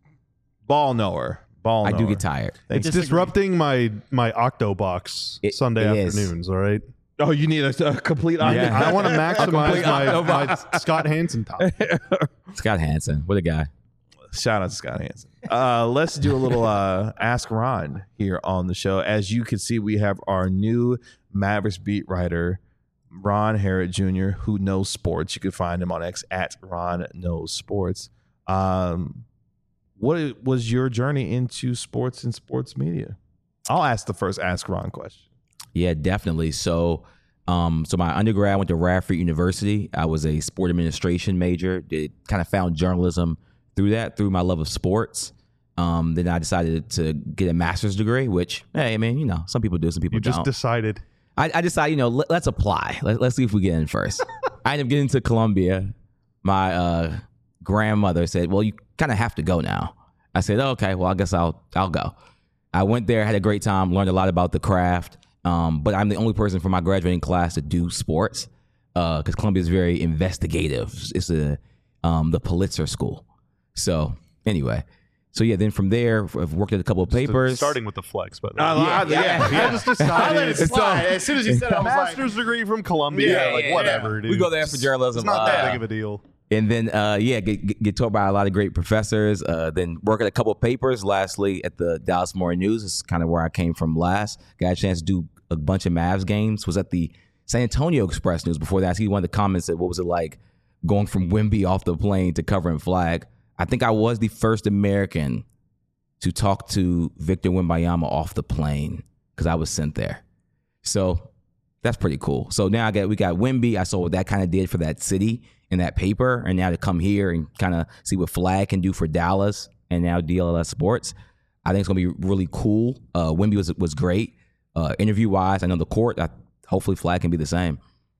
ball knower. Ball I knower. do get tired. Thank It's you. disrupting my my Octo box It- Sunday it is. afternoons, all right? Oh, you need a, a complete. Yeah. I want to maximize complete my, Octo my box. Scott Hansen top. Scott Hansen, what a guy. Shout out to Scott Hansen. Uh, let's do a little uh, Ask Ron here on the show. As you can see, we have our new Mavericks beat writer, Ron Harrod Junior, who knows sports. You can find him on X at Ron Knows Sports. Um, what was your journey into sports and sports media? I'll ask the first Ask Ron question. Yeah, definitely. So, um, so my undergrad went to Radford University. I was a sport administration major. Did kind of found journalism through that, through my love of sports. Um, then I decided to get a master's degree, which, hey, I mean, you know, some people do, some people You just don't. decided. I, I decided, you know, let, let's apply. Let, let's see if we get in first. I ended up getting to Columbia. My uh, grandmother said, well, you kind of have to go now. I said, oh, okay, well, I guess I'll I'll go. I went there, had a great time, learned a lot about the craft. Um, but I'm the only person from my graduating class to do sports because uh, Columbia is very investigative. It's a um, the Pulitzer School. So anyway. So, yeah, then from there, I've worked at a couple of papers. Starting with the flex, but I, I, yeah, yeah, yeah. I just decided. I let it slide. As soon as you said it, I was like, Master's degree from Columbia. Yeah, like, yeah, whatever, yeah. dude. We go there for journalism. It's not that uh, big of a deal. And then, uh, yeah, get, get, get taught by a lot of great professors. Uh, then work at a couple of papers. Lastly, at the Dallas Morning News. This is kind of where I came from last. Got a chance to do a bunch of Mavs games. Was at the San Antonio Express News before that. He one of the comments said, what was it like going from Wemby off the plane to covering flag? I think I was the first American to talk to Victor Wembanyama off the plane because I was sent there. So that's pretty cool. So now I got we got Wemby. I saw what that kind of did for that city and that paper. And now to come here and kind of see what Flag can do for Dallas and now D L S Sports, I think it's going to be really cool. Uh, Wemby was was great. Uh, Interview-wise, I know the court, I, hopefully Flag can be the same.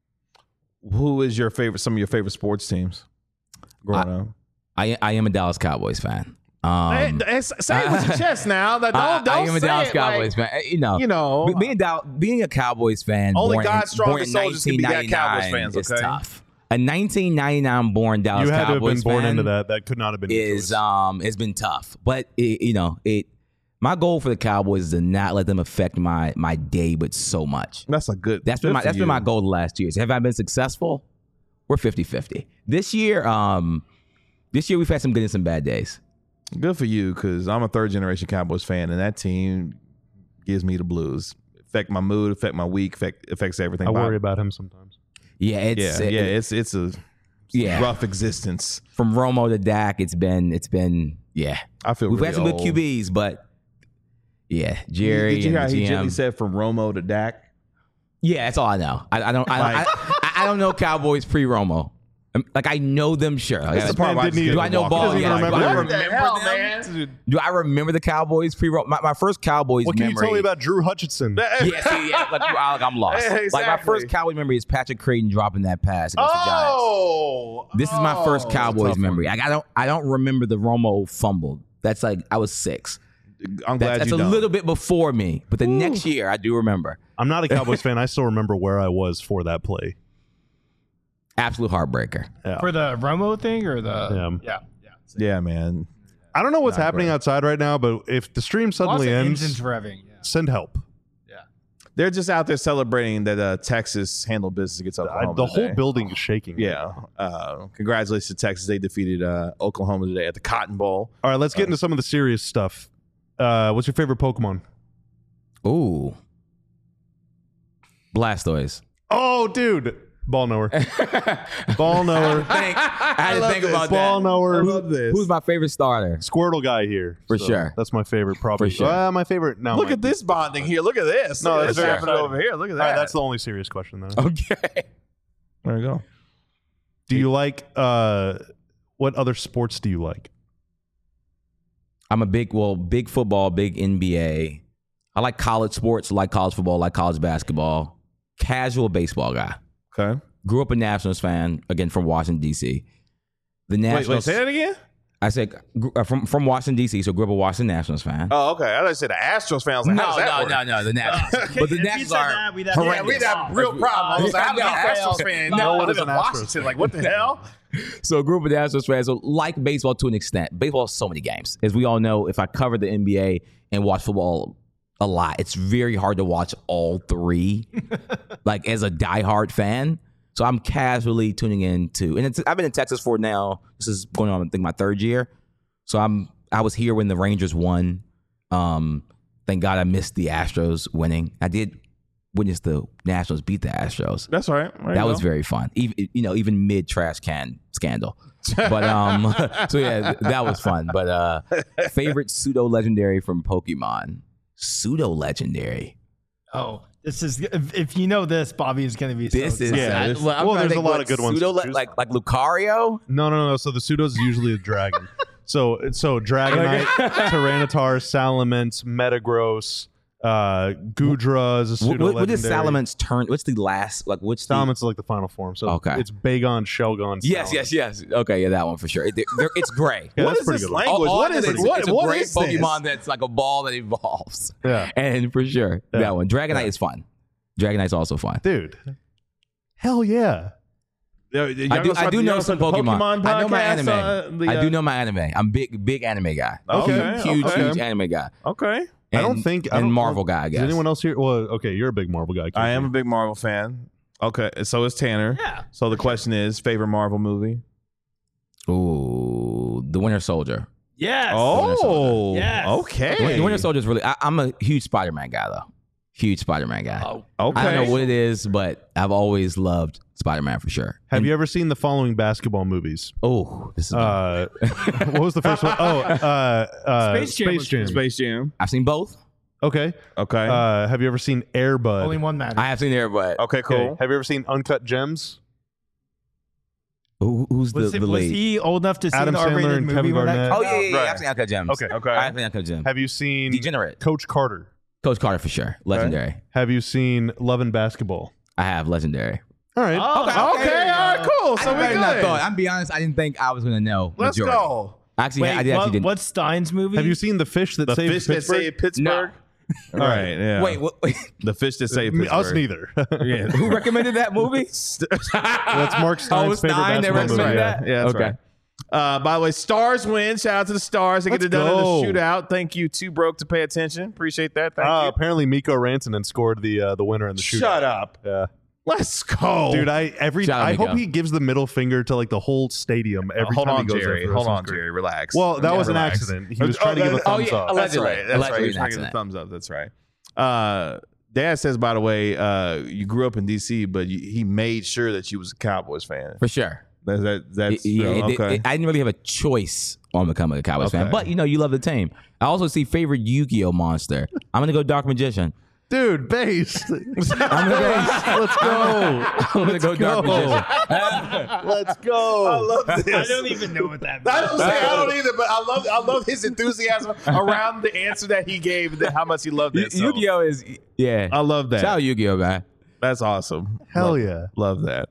who is your favorite? Some of your favorite sports teams growing I, up. I I am a Dallas Cowboys fan. Um, Hey, hey, say it with your chest now. That don't, I, don't I am a say Dallas it Cowboys like, fan. You know, You know, be- being Dal- being a Cowboys fan, Only born God's in, strongest born in soldiers can be that Cowboys fans, is okay? tough. A nineteen ninety-nine born Dallas You had to have Cowboys been born fan into that. That could not have been your is choice. um it's been tough, but it, you know it. My goal for the Cowboys is to not let them affect my my day, but so much. that's a good. That's been good my for that's you. been my goal the last two years. Have I been successful? We're fifty-fifty. This year, um, this year we've had some good and some bad days. Good for you, because I'm a third generation Cowboys fan, and that team gives me the blues. Affect my mood, affect my week, affect, affects everything. I Bob. worry about him sometimes. Yeah, it's Yeah, it- yeah, it's it's a Yeah. rough existence. from Romo to Dak. It's been it's been yeah. I feel We've really had some good old. Q Bs, but yeah, Jerry Did you hear how and the he G M. gently said from Romo to Dak? Yeah, that's all I know. I, I don't. I, Like- I, I, I don't know Cowboys pre Romo. Like I know them, sure. Like, That's the part man where I didn't just even get do I to know walk ball? over. Doesn't Yeah, even do I remember What the remember hell, them? man? Do I remember the Cowboys pre Romo? My, my first Cowboys What can memory. you tell me about Drew Hutchinson? Yeah, see, yeah, like, I- like I'm lost. Yeah, Like my first exactly. Cowboys memory is Patrick Creighton dropping that pass against the Giants. Oh, This is my first oh. Cowboys tough memory. Like, I don't. I don't remember the Romo fumble. That's like I was six. I'm glad That's, that's you a don't. little bit before me, but the next year I do remember. I'm not a Cowboys fan. I still remember where I was for that play. Absolute heartbreaker. Yeah. For the Romo thing or the Yeah. yeah, yeah. Yeah, man. I don't know what's Not happening great. outside right now, but if the stream suddenly Lots of ends, engines revving. Yeah. send help. They're just out there celebrating that uh, Texas handled business against I, Oklahoma. the whole today. building is shaking. Yeah. Uh, congratulations to Texas. They defeated uh, Oklahoma today at the Cotton Bowl. All right, let's get into some of the serious stuff. Uh, what's your favorite Pokemon? Ooh. Blastoise. Oh, dude. Ball knower. Ball knower. Think, I had to love think this. about Ball that. knower. this. Who's my favorite starter? Squirtle guy here. For So sure. That's my favorite, probably. For sure. Uh, my favorite. No, Look my- at this bonding here. Look at this. No, Look at that's this very happening exciting. over here. Look at that. All right, that's the only serious question then. Okay. there we go. Do you like, uh, what other sports do you like? I'm a big, well, big football, big N B A. I like college sports, like college football, like college basketball. Casual baseball guy. Okay. Grew up a Nationals fan, again, from Washington, D C. The Wait, Nationals. wait, say that again? I said gr- uh, from from Washington D C, so grew up a Washington Nationals fan. Oh, okay. I thought you said the Astros fans. Like, how does that work? no, the Nationals. but the If you Nationals said are that, we'd have- Yeah, horrendous. we have real problems. I was like, how many No, Astros fans? no one live is in an Astros Washington. Like, what the hell? So a group of Nationals fans, so like baseball to an extent. Baseball has so many games. As we all know, if I cover the N B A and watch football a lot, it's very hard to watch all three, like as a diehard fan. So I'm casually tuning in to, and it's, I've been in Texas for now, this is going on, I think, my third year. So I'm, I was here when the Rangers won. Um, thank God I missed the Astros winning. I did witness the Nationals beat the Astros. That's all right. There That you was go. very fun. Even you know, even mid trash can scandal. But um, so yeah, that was fun. But uh, favorite pseudo legendary from Pokemon, pseudo legendary. Oh, this is if, if you know this, Bobby is going to be. This so is excited. Yeah, I- this- well, I'm well, trying to there's a think lot what of good ones pseudo to le- choose like like Lucario. No, no, no. So the pseudo is usually a dragon. So so Dragonite, Tyranitar, Salamence, Metagross, uh, Gudra is a What, pseudo what, what does legendary. Salamence turn? What's the last? Like, what's the? Salamence is like the final form. So Okay. it's Bagon, Shelgon. Yes, Salamence. yes, yes. Okay, yeah, that one for sure. It, they're- it's gray. Yeah, What that's is pretty this good one. language? All- all What I is know it? is What, it's a what great is this? Pokemon that's like a ball that evolves. Yeah. And for sure, Yeah. that one. Dragonite Yeah. is fun. Dragonite's also fun. Dude. Hell yeah. Yo, I y'all do. gonna I start- do y'all know gonna some start the Pokemon. I know my podcast, anime. uh, the, I uh, do know my anime. I'm big, big anime guy. Okay, huge, okay. huge anime guy. Okay. I don't And- think I and don't, Marvel guy. I Is guess. anyone else here? Well, okay, you're a big Marvel guy. I am a Casey. big Marvel fan. Okay, so is Tanner. Yeah. So the question is, favorite Marvel movie? Ooh, the Winter Soldier. Yes. Oh, Yes. okay. The Winter Soldier is really. I, I'm a huge Spider-Man guy though. Huge Spider-Man guy. Oh, Okay. I don't know what it is, but I've always loved Spider-Man for sure. Have And- you ever seen the following basketball movies? Oh, this is. Uh, what was the first one? Oh, uh, uh, Space Jam was Jam. Space Jam. I've seen both. Okay. Okay. Uh, have you ever seen Air Bud? only one matters. I have seen there, but okay, Okay. cool. Have you ever seen Uncut Gems? who, who's was, the, it, the was lead? he old enough to see Adam the Sandler R-rated and movie Kevin when that Garnett? came Oh yeah, out? yeah, yeah. Right. I've seen Uncut Gems. Okay. Okay. I've seen Uncut Gems. Have you seen Degenerate. Coach Carter? Coach Carter for sure. Legendary. Have you seen Love and Basketball? I have legendary. All right. Oh, Okay, there you all right, go. cool. So we I not good. thought. I'm be honest. I didn't think I was gonna know. Let's majority. go. Actually, Wait, I did what, actually didn't. what's Stein's movie? Have you seen The Fish That The Saved fish that Pittsburgh? saved Pittsburgh. All right. Yeah. Wait, what, wait. The fish that saved Me- Pittsburgh. Us neither. Yeah. Who recommended that movie? That's Mark Stein's Oh, favorite Stein that basketball movie. recommended Yeah. that? Yeah, that's Okay. right. Uh, by the way, Stars win. Shout out to the Stars. They get Let's it done go. in the shootout. Thank you. Too broke to pay attention. Appreciate that. Thank Uh, you. apparently, Miko Rantanen scored the uh, the winner in the shootout. Shut up. Yeah. Let's go. Dude, I every Shout out I Miko. hope he gives the middle finger to like the whole stadium every Hold time on, he goes Jerry. there. for the Hold rest of on, his career. Jerry. Relax. Well, that Yeah, was an relax. accident. He was trying to give a that- thumbs oh, yeah, up. That's Allegedly. right. That's Allegedly right. He was an trying to give a accident. thumbs up. That's right. Uh, Dad says, by the way, uh, you grew up in D C, but you, he made sure that you was a Cowboys fan. For sure. That, that, that's yeah, uh, it- okay. it- I didn't really have a choice on becoming a Cowboys fan, Okay. but you know, you love the team. I also see favorite Yu-Gi-Oh monster. I'm gonna go Dark Magician. Dude, base. I'm gonna go. Let's go. I'm gonna go Dark go. Magician. Let's go. I love I this. don't even know what that means. I don't, say, I don't either, but I love I love his enthusiasm around the answer that he gave, and how much he loved it. So. Yu-Gi-Oh is yeah. I love that. Shout out Yu-Gi-Oh, man. That's awesome. Hell love, yeah. love that.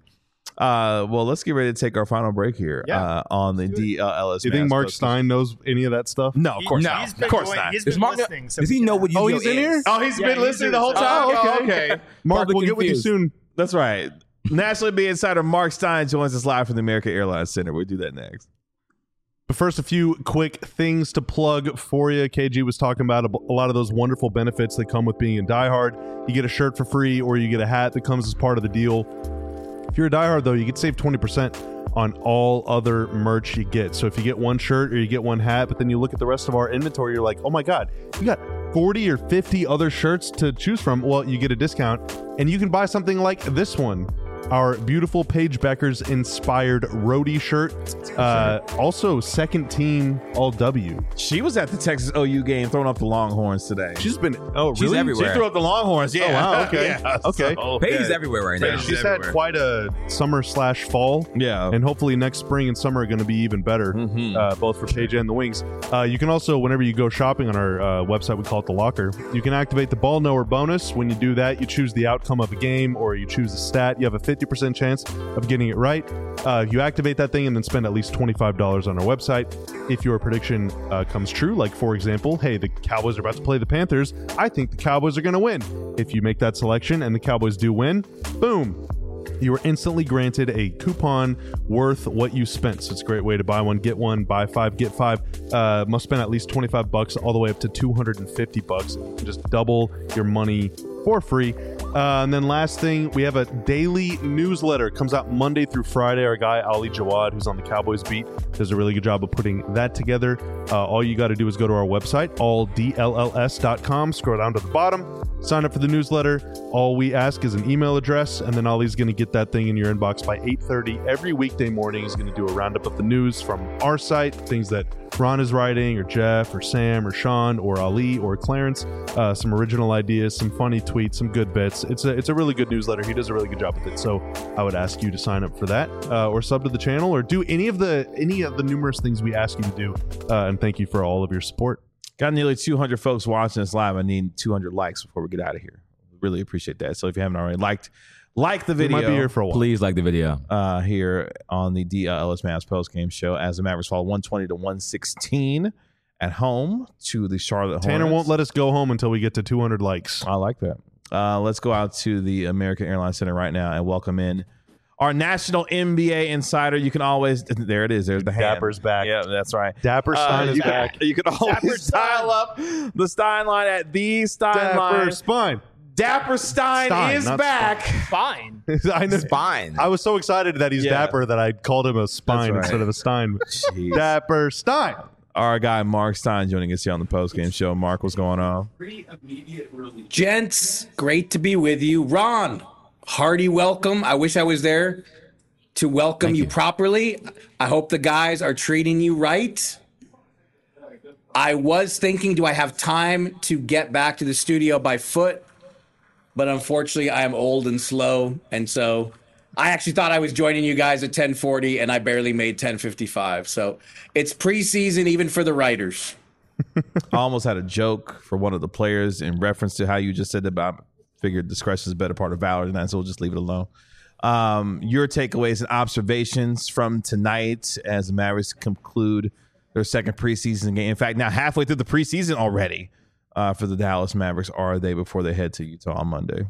Uh, well, let's get ready to take our final break here Yeah. uh, on the D L L S. Do you think Mass Mark Podcast. Stein knows any of that stuff? No, of course No, not. He's Of been course going- not. He's Does been Mark listening. so does he know what Yu-Gi-Oh Oh, he's in is? here? Oh, he's Yeah, been he's listening the in whole this. time. Oh, Oh, okay. okay. Mark, Probably we'll get with you confused. soon. That's right. Nationally B Insider Mark Stein joins us live from the American Airlines Center. We'll do that next. But first, a few quick things to plug for you. K G was talking about a, a lot of those wonderful benefits that come with being a diehard. You get a shirt for free, or you get a hat that comes as part of the deal. If you're a diehard, though, you get save twenty percent on all other merch you get. So if you get one shirt or you get one hat, but then you look at the rest of our inventory, you're like, oh my God, you got forty or fifty other shirts to choose from. Well, you get a discount, and you can buy something like this one. Our beautiful Paige Becker's inspired roadie shirt. Uh, also, second team all W. She was at the Texas O U game throwing up the Longhorns today. She's been, oh, She's really? everywhere. She threw up the Longhorns. Yeah. Oh, wow, okay. Yeah, Okay. so, Paige is yeah. everywhere right now. Paige She's everywhere. had quite a summer slash fall. Yeah. And hopefully next spring and summer are going to be even better, Mhm. uh, both for Paige and the Wings. Uh, you can also, whenever you go shopping on our uh, website, we call it The Locker, you can activate the Ball Knower bonus. When you do that, you choose the outcome of a game or you choose a stat. You have a fifty percent chance of getting it right. Uh, you activate that thing and then spend at least twenty-five dollars on our website. If your prediction uh, comes true, like for example, hey, the Cowboys are about to play the Panthers, I think the Cowboys are going to win. If you make that selection and the Cowboys do win, boom, you are instantly granted a coupon worth what you spent. So it's a great way to buy one, get one, buy five, get five. Uh, must spend at least twenty-five bucks all the way up to two hundred fifty bucks. You can just double your money for free. Uh, and then last thing, we have a daily newsletter. It comes out Monday through Friday. Our guy, Ali Jawad, who's on the Cowboys beat, does a really good job of putting that together. Uh, all you got to do is go to our website, all d l l s dot com, scroll down to the bottom, sign up for the newsletter. All we ask is an email address, and then Ali's going to get that thing in your inbox by eight thirty every weekday morning. He's going to do a roundup of the news from our site, things that Ron is writing, or Jeff, or Sam, or Sean, or Ali, or Clarence, uh, some original ideas, some funny tweets, tweets, some good bits. It's a it's a really good newsletter. He does a really good job with it. So I would ask you to sign up for that, uh, or sub to the channel, or do any of the any of the numerous things we ask you to do. Uh, and thank you for all of your support. Got nearly two hundred folks watching us live. I need two hundred likes before we get out of here. Really appreciate that. So if you haven't already liked, like the video. We might be here for a while. Please like the video. Uh, here on the D L S Mavs postgame show as the Mavericks fall one twenty to one sixteen at home to the Charlotte Hornets. Tanner won't let us go home until we get to two hundred likes. I like that. Uh, let's go out to the American Airlines Center right now and welcome in our national N B A insider. You can always, there it is. There's the hand. Dapper's back. Yeah, that's right. Dapper Stein uh, is you back. Can, you can always dial up the Stein line at the Stein Dapper line. Spine. Dapper Stein, Stein, is not back. Fine. I know. Spine. I was so excited that he's Yeah. Dapper that I called him a spine right. instead of a Stein. Jeez. Dapper Stein. Our guy Mark Stein joining us here on the postgame show. Mark, what's going on? Gents, great to be with you. Ron, hearty welcome. I wish I was there to welcome you, you. properly. I hope the guys are treating you right. I was thinking, do I have time to get back to the studio by foot? But unfortunately, I am old and slow. And so I actually thought I was joining you guys at ten forty, and I barely made ten fifty-five. So it's preseason even for the writers. I almost had a joke for one of the players in reference to how you just said about figured discretion is a better part of valor than that, so we'll just leave it alone. Um, your takeaways and observations from tonight as the Mavericks conclude their second preseason game. In fact, now halfway through the preseason already uh, for the Dallas Mavericks are they before they head to Utah on Monday?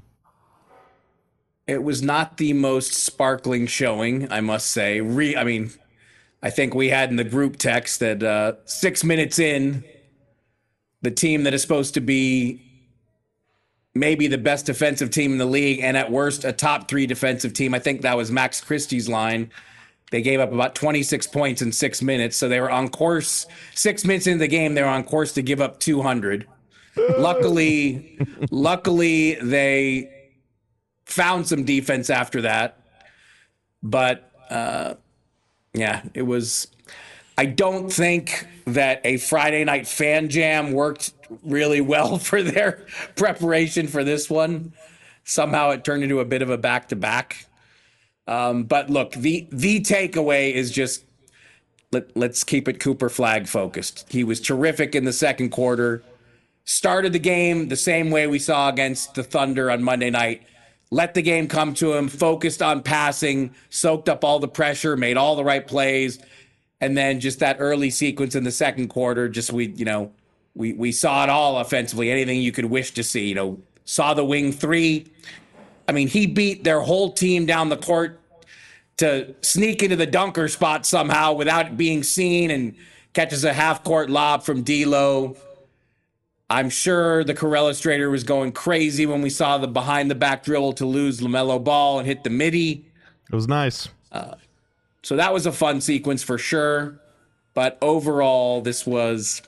It was not the most sparkling showing, I must say. Re- I mean, I think we had in the group text that uh, six minutes in, the team that is supposed to be maybe the best defensive team in the league, and at worst, a top three defensive team. I think that was Max Christie's line. They gave up about twenty-six points in six minutes, so they were on course. Six minutes into the game, they were on course to give up two hundred. luckily, luckily, they found some defense after that. But, uh, yeah, it was... I don't think that a Friday night fan jam worked really well for their preparation for this one. Somehow it turned into a bit of a back-to-back. Um, but look, the the takeaway is just let, let's keep it Cooper Flag focused. He was terrific in the second quarter. Started the game the same way we saw against the Thunder on Monday night. Let the game come to him, focused on passing, soaked up all the pressure, made all the right plays. And then just that early sequence in the second quarter, just we, you know, we we saw it all offensively, anything you could wish to see. You know, saw the wing three. I mean, he beat their whole team down the court to sneak into the dunker spot somehow without being seen, and catches a half-court lob from D'Lo. I'm sure the Corellistrator was going crazy when we saw the behind-the-back dribble to lose LaMelo Ball and hit the midi. It was nice. Uh, So that was a fun sequence for sure. But overall, this was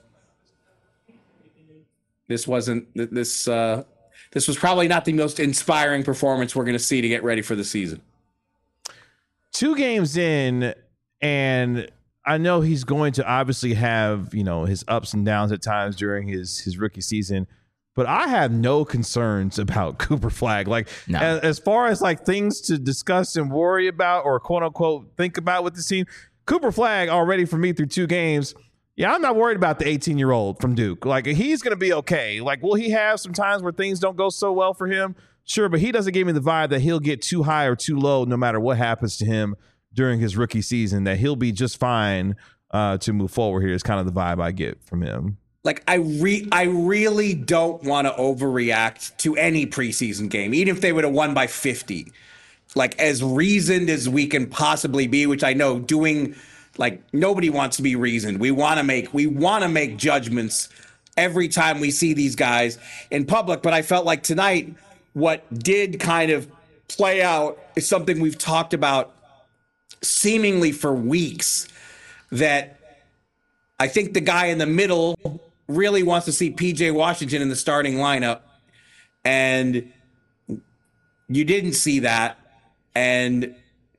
this wasn't this uh, this was probably not the most inspiring performance we're going to see to get ready for the season. Two games in, and I know he's going to obviously have, you know, his ups and downs at times during his his rookie season. But I have no concerns about Cooper Flag. Like, No. as, as far as like things to discuss and worry about or quote unquote think about with the team, Cooper Flag already for me through two games. Yeah, I'm not worried about the eighteen year old from Duke. Like, he's going to be okay. Like, will he have some times where things don't go so well for him? Sure, but he doesn't give me the vibe that he'll get too high or too low no matter what happens to him during his rookie season, that he'll be just fine uh, to move forward here is kind of the vibe I get from him. Like, I re- I really don't want to overreact to any preseason game, even if they would have won by fifty. Like, as reasoned as we can possibly be, which I know doing, like, nobody wants to be reasoned. We want to make we want to make judgments every time we see these guys in public. But I felt like tonight, what did kind of play out is something we've talked about seemingly for weeks, that I think the guy in the middle really wants to see P J Washington in the starting lineup, and you didn't see that. And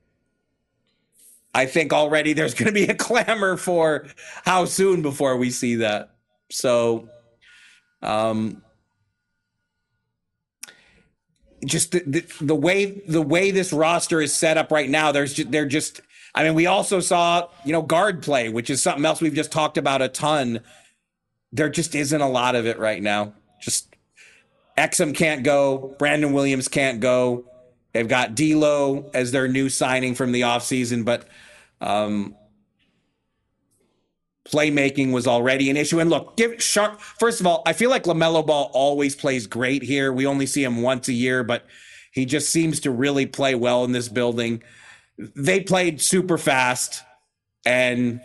I think already there's going to be a clamor for how soon before we see that. So, um, just the, the, the way the way this roster is set up right now, there's just, they're just. I mean, we also saw you know guard play, which is something else we've just talked about a ton. There just isn't a lot of it right now. Just Exum can't go, Brandon Williams can't go. They've got D'Lo as their new signing from the offseason, but um, playmaking was already an issue. And look, give Sharp. First of all, I feel like LaMelo Ball always plays great here. We only see him once a year, but he just seems to really play well in this building. They played super fast, and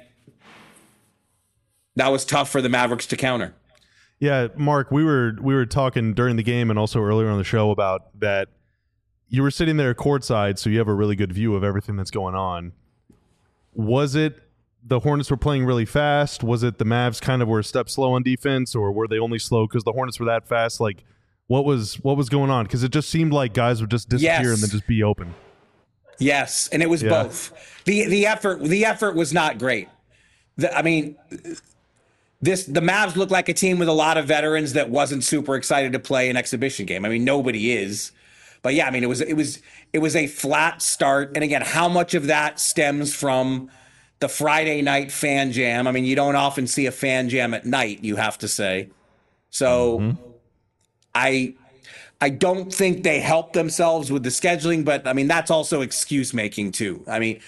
that was tough for the Mavericks to counter. Yeah, Mark, we were we were talking during the game and also earlier on the show about that. You were sitting there courtside, so you have a really good view of everything that's going on. Was it the Hornets were playing really fast? Was it the Mavs kind of were a step slow on defense, or were they only slow because the Hornets were that fast? Like, what was what was going on? Because it just seemed like guys would just disappear Yes. and then just be open. Yes, and it was Yeah. both. the The effort the effort was not great. The, I mean, this the Mavs looked like a team with a lot of veterans that wasn't super excited to play an exhibition game. I mean, nobody is. But yeah, I mean, it was it was it was a flat start. And again, how much of that stems from the Friday night fan jam? I mean, you don't often see a fan jam at night, you have to say. So mm-hmm. I I don't think they helped themselves with the scheduling, but I mean, that's also excuse making too. I mean,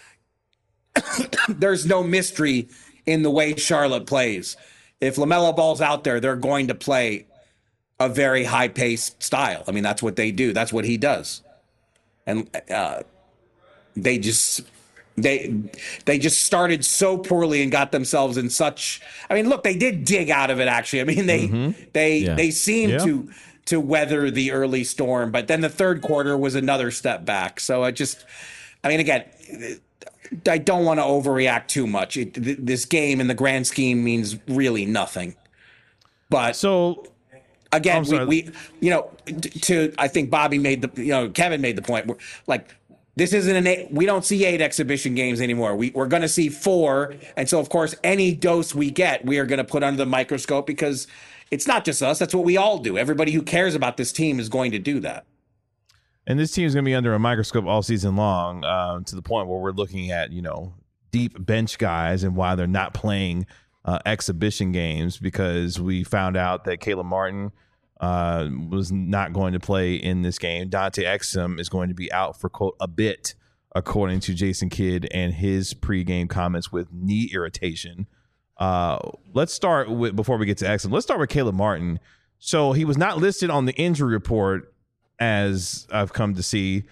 there's no mystery in the way Charlotte plays. If LaMelo Ball's out there, they're going to play a very high-paced style. I mean, that's what they do. That's what he does. And uh, they just they they just started so poorly and got themselves in such. I mean, look, they did dig out of it. Actually, I mean, they mm-hmm. they yeah. they seemed yeah. to to weather the early storm, but then the third quarter was another step back. So I just, I mean, again, I don't want to overreact too much. It, th- this game in the grand scheme means really nothing. But so. Again, we, we, you know, to, I think Bobby made the, you know, Kevin made the point. We're, like, this isn't an eight, we don't see eight exhibition games anymore. We, we're going to see four. And so, of course, any dose we get, we are going to put under the microscope because it's not just us. That's what we all do. Everybody who cares about this team is going to do that. And this team is going to be under a microscope all season long uh, to the point where we're looking at, you know, deep bench guys and why they're not playing Uh, exhibition games, because we found out that Caleb Martin uh, was not going to play in this game. Dante Exum is going to be out for, quote, a bit, according to Jason Kidd and his pregame comments with knee irritation. Uh, let's start with, before we get to Exum, let's start with Caleb Martin. So he was not listed on the injury report, as I've come to see,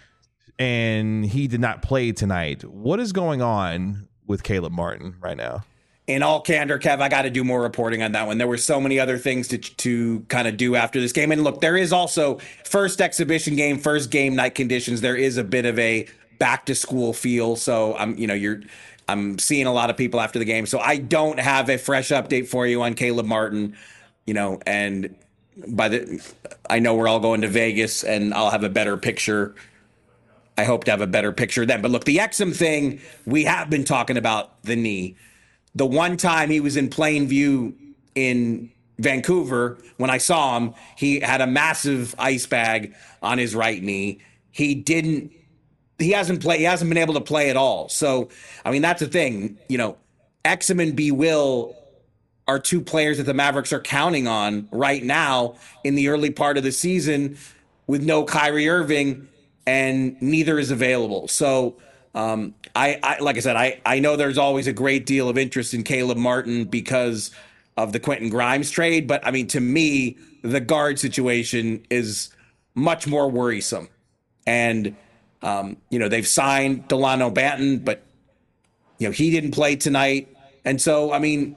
and he did not play tonight. What is going on with Caleb Martin right now? In all candor, Kev, I got to do more reporting on that one. There were so many other things to to kind of do after this game. And look, there is also first exhibition game, first game night conditions. There is a bit of a back to school feel. So I'm, you know, you're, I'm seeing a lot of people after the game. So I don't have a fresh update for you on Caleb Martin, you know, and by the, I know we're all going to Vegas and I'll have a better picture. I hope to have a better picture then. But look, the Exum thing, we have been talking about the knee. The one time he was in plain view in Vancouver, when I saw him, he had a massive ice bag on his right knee. He didn't, he hasn't played, he hasn't been able to play at all. So, I mean, that's the thing, you know, Exum and B. Will are two players that the Mavericks are counting on right now in the early part of the season with no Kyrie Irving, and neither is available. So, Um, I, I, like I said, I, I know there's always a great deal of interest in Caleb Martin because of the Quentin Grimes trade. But I mean, to me, the guard situation is much more worrisome. And, um, you know, they've signed Delano Banton, but, you know, he didn't play tonight. And so, I mean,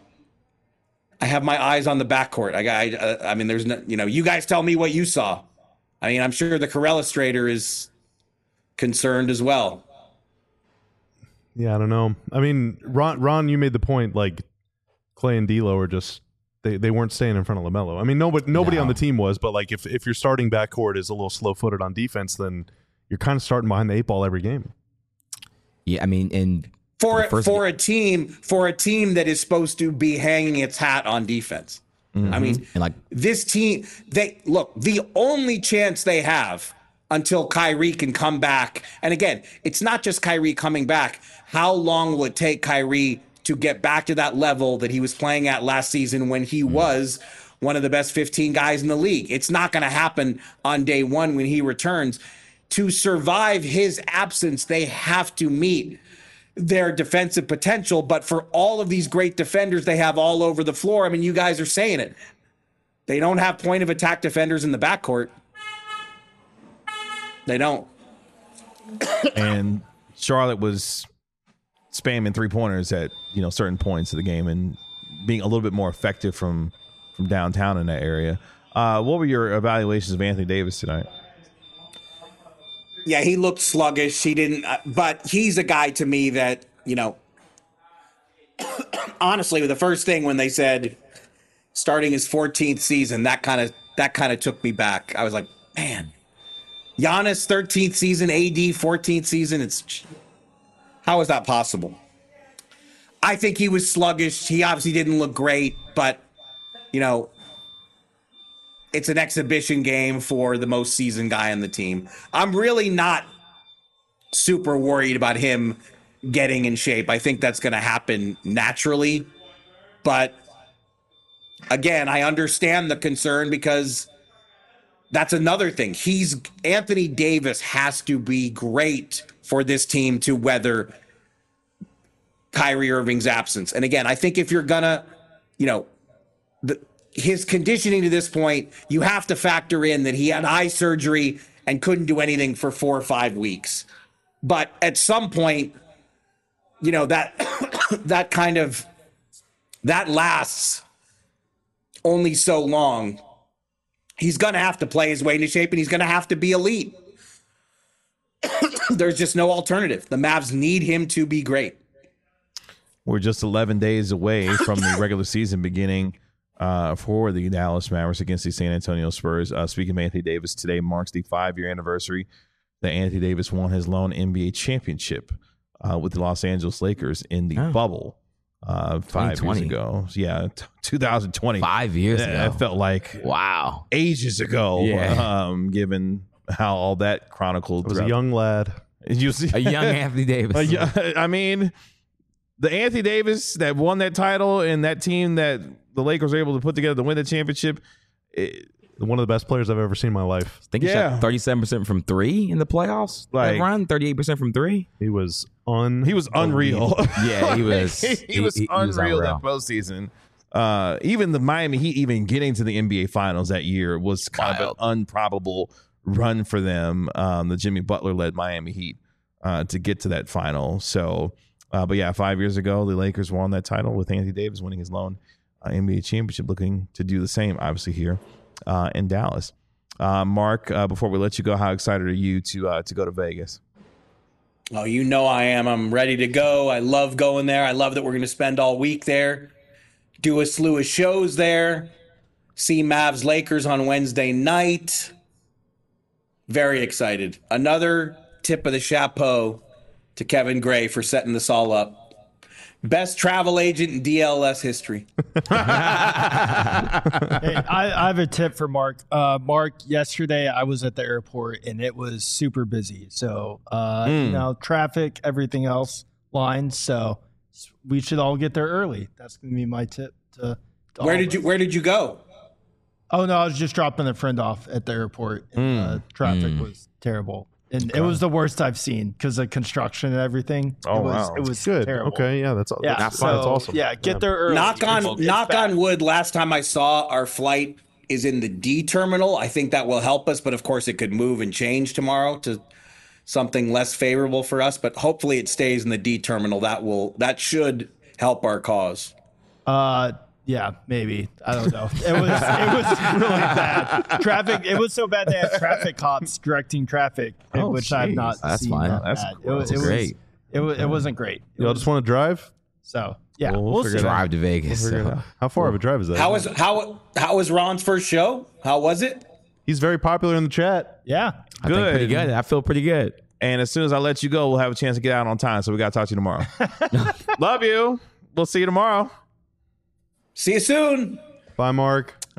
I have my eyes on the backcourt. I, I, I mean, there's no, you know, you guys tell me what you saw. I mean, I'm sure the Corellistrator is concerned as well. Yeah, I don't know. I mean, Ron, Ron, you made the point, like, Clay and D'Lo are just, they, they weren't staying in front of LaMelo. I mean, nobody nobody no. on the team was, but, like, if, if your starting backcourt is a little slow-footed on defense, then you're kind of starting behind the eight ball every game. Yeah, I mean, and for for a team for a team that is supposed to be hanging its hat on defense. Mm-hmm. I mean, and like this team, they look, the only chance they have until Kyrie can come back. And again, it's not just Kyrie coming back. How long will it take Kyrie to get back to that level that he was playing at last season when he was one of the best fifteen guys in the league? It's not going to happen on day one when he returns. To survive his absence, they have to meet their defensive potential. But for all of these great defenders they have all over the floor, I mean, you guys are saying it. They don't have point of attack defenders in the backcourt. They don't. And Charlotte was spamming three pointers at, you know, certain points of the game and being a little bit more effective from from downtown in that area. Uh, what were your evaluations of Anthony Davis tonight? Yeah, he looked sluggish. He didn't, uh, but he's a guy to me that, you know, honestly, the first thing when they said starting his fourteenth season, that kind of that kind of took me back. I was like, man, Giannis thirteenth season, A D fourteenth season. It's how is that possible? I think he was sluggish. He obviously didn't look great, but you know, it's an exhibition game for the most seasoned guy on the team. I'm really not super worried about him getting in shape. I think that's going to happen naturally. But again, I understand the concern because that's another thing. He's Anthony Davis has to be great for this team to weather Kyrie Irving's absence. And again, I think if you're gonna, you know, the, his conditioning to this point, you have to factor in that he had eye surgery and couldn't do anything for four or five weeks. But at some point, you know, that that kind of that lasts only so long. He's going to have to play his way into shape, and he's going to have to be elite. There's just no alternative. The Mavs need him to be great. We're just eleven days away from the regular season beginning uh, for the Dallas Mavericks against the San Antonio Spurs. Uh, speaking of Anthony Davis, today marks the five-year anniversary that Anthony Davis won his lone N B A championship uh, with the Los Angeles Lakers in the Oh. bubble uh, five years ago. Yeah, t- twenty twenty. Five years It, ago. it felt like Wow. ages ago, Yeah. um, given how all that chronicled. I was a throughout- young lad. You see, A young Anthony Davis. Uh, yeah, I mean, the Anthony Davis that won that title and that team that the Lakers were able to put together to win the championship. It, One of the best players I've ever seen in my life. I think he Yeah. shot thirty-seven percent from three in the playoffs. Like- Like, that run, thirty-eight percent from three. He was un. he was unreal. Yeah, he was. he, he was he- he was unreal unreal. that postseason. Uh, even the Miami Heat, even getting to the N B A Finals that year was kind Wild. of an unprobable run for them. Um, the Jimmy Butler led Miami Heat uh, to get to that final. So, uh, but yeah, five years ago, the Lakers won that title with Anthony Davis winning his lone uh, N B A championship, looking to do the same, obviously, here uh, in Dallas. Uh, Mark, uh, before we let you go, how excited are you to uh, to go to Vegas? Oh, you know I am. I'm ready to go. I love going there. I love that we're going to spend all week there, do a slew of shows there, see Mavs Lakers on Wednesday night. Very excited. Another tip of the chapeau to Kevin Gray for setting this all up. Best travel agent in D L S history. Hey, I, I have a tip for Mark. Uh, Mark, yesterday I was at the airport and it was super busy. So, uh, you know, traffic, everything else, lines. So we should all get there early. That's going to be my tip. To, to Where all did of you us. Where did you go? Oh no, I was just dropping a friend off at the airport. And, uh, traffic was terrible, and it was the worst I've seen because of construction and everything. Oh, it was, wow. It was Good. terrible. Okay. Yeah. That's Yeah, That's, so, that's awesome. Yeah, get there early. Knock on It's knock bad. on wood. Last time I saw our flight is in the D terminal. I think that will help us, but of course it could move and change tomorrow to something less favorable for us. But hopefully it stays in the D terminal. That will that should help our cause. Uh, yeah, maybe. I don't know. It was it was really bad. Traffic. It was so bad they had traffic cops directing traffic, Oh, which I've jeez. not That's seen. fine. that That's bad. cool. It, was- it That's was great. It was. It wasn't great. It Y'all was- just want to drive? so yeah, Well, we'll we'll figure see. it out. Drive to Vegas. Figure it so. out. How far of a drive is that? How was how how was Ron's first show? How was it? He's very popular in the chat. Yeah. I think pretty Good. good. I feel pretty good. And as soon as I let you go, we'll have a chance to get out on time. So we got to talk to you tomorrow. Love you. We'll see you tomorrow. See you soon. Bye, Mark.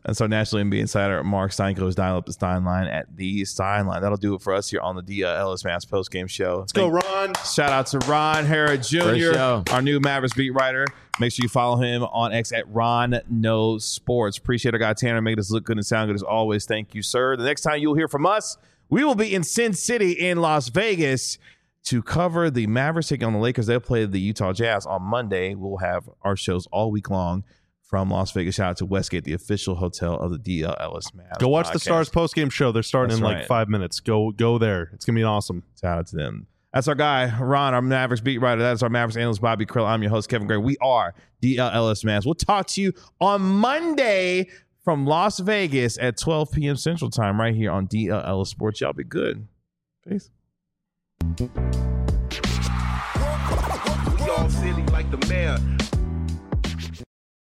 That's our National N B A insider, Mark Steinko's dial up the Stein line at the Stein line. That'll do it for us here on the D L Ellis Mass post game show. Let's go, Ron. Shout out to Ron Hara Junior, show. our new Mavericks beat writer. Make sure you follow him on X at Ron Knows Sports. Appreciate our guy Tanner making us look good and sound good as always. Thank you, sir. The next time you'll hear from us, we will be in Sin City in Las Vegas to cover the Mavericks taking on the Lakers. They'll play the Utah Jazz on Monday. We'll have our shows all week long from Las Vegas. Shout out to Westgate, the official hotel of the D L Ellis Mavs. Go watch podcast. the Stars post game show. They're starting That's in like right. five minutes. Go go there. It's gonna be awesome. Shout out to them. That's our guy, Ron, our Mavericks beat writer. That is our Mavericks analyst, Bobby Krill. I'm your host, Kevin Gray. We are D L Ellis Mavs. We'll talk to you on Monday from Las Vegas at twelve p.m. Central Time right here on D L Ellis Sports. Y'all be good. Peace. We all silly like the mayor.